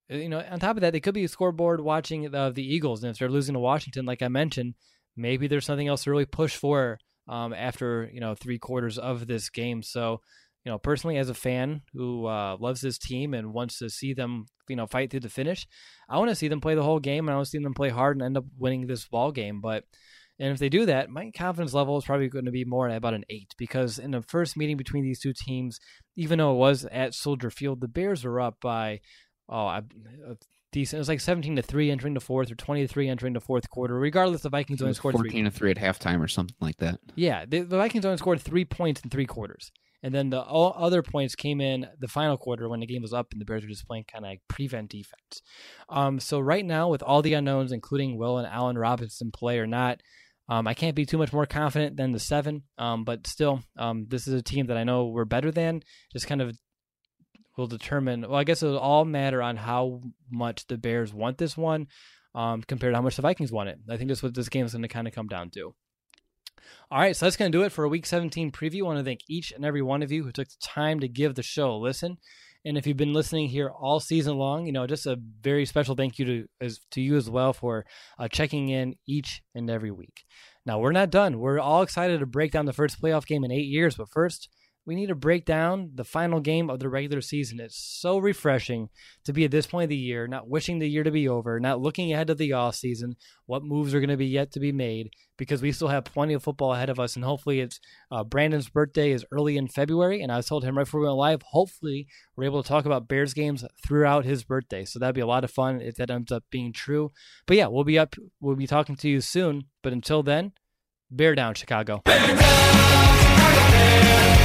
On top of that, they could be scoreboard watching the Eagles, and if they're losing to Washington, like I mentioned, maybe there's something else to really push for after 3 quarters of this game. So, personally, as a fan who loves this team and wants to see them, fight through the finish, I want to see them play the whole game, and I want to see them play hard and end up winning this ball game. And if they do that, my confidence level is probably going to be more at about an 8, because in the first meeting between these two teams, even though it was at Soldier Field, the Bears were up by decent. It was like 17-3 entering the fourth, or 20-3 entering the fourth quarter. Regardless, the Vikings only scored 14-3 at halftime or something like that. Yeah, the Vikings only scored 3 points in 3 quarters. And then the all other points came in the final quarter when the game was up and the Bears were just playing kind of like prevent defense. So right now, with all the unknowns, including will and Allen Robinson play or not, I can't be too much more confident than the 7. But still, this is a team that I know we're better than. Just kind of will determine. Well, I guess it'll all matter on how much the Bears want this one compared to how much the Vikings want it. I think that's what this game is going to kind of come down to. All right, so that's going to do it for a Week 17 preview. I want to thank each and every one of you who took the time to give the show a listen. And if you've been listening here all season long, just a very special thank you to you as well for checking in each and every week. Now, we're not done. We're all excited to break down the first playoff game in 8 years, but first, we need to break down the final game of the regular season. It's so refreshing to be at this point of the year, not wishing the year to be over, not looking ahead to the off season, what moves are going to be yet to be made, because we still have plenty of football ahead of us. And hopefully it's Brandon's birthday is early in February. And I told him right before we went live, hopefully we're able to talk about Bears games throughout his birthday. So that'd be a lot of fun if that ends up being true. But yeah, we'll be talking to you soon. But until then, bear down, Chicago. Bear down, Chicago Bears.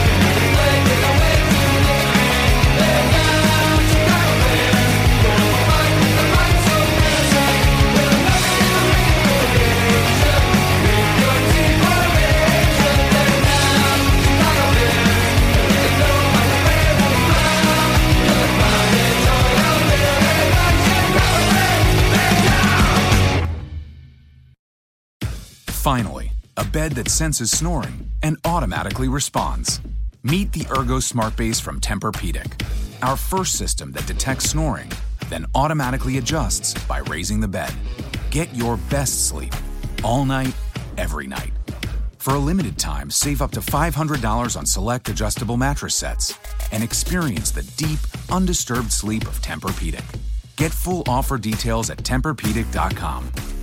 Finally, a bed that senses snoring and automatically responds. Meet the Ergo Smart Base from Tempur-Pedic, our first system that detects snoring, then automatically adjusts by raising the bed. Get your best sleep all night, every night. For a limited time, save up to $500 on select adjustable mattress sets and experience the deep, undisturbed sleep of Tempur-Pedic. Get full offer details at TempurPedic.com.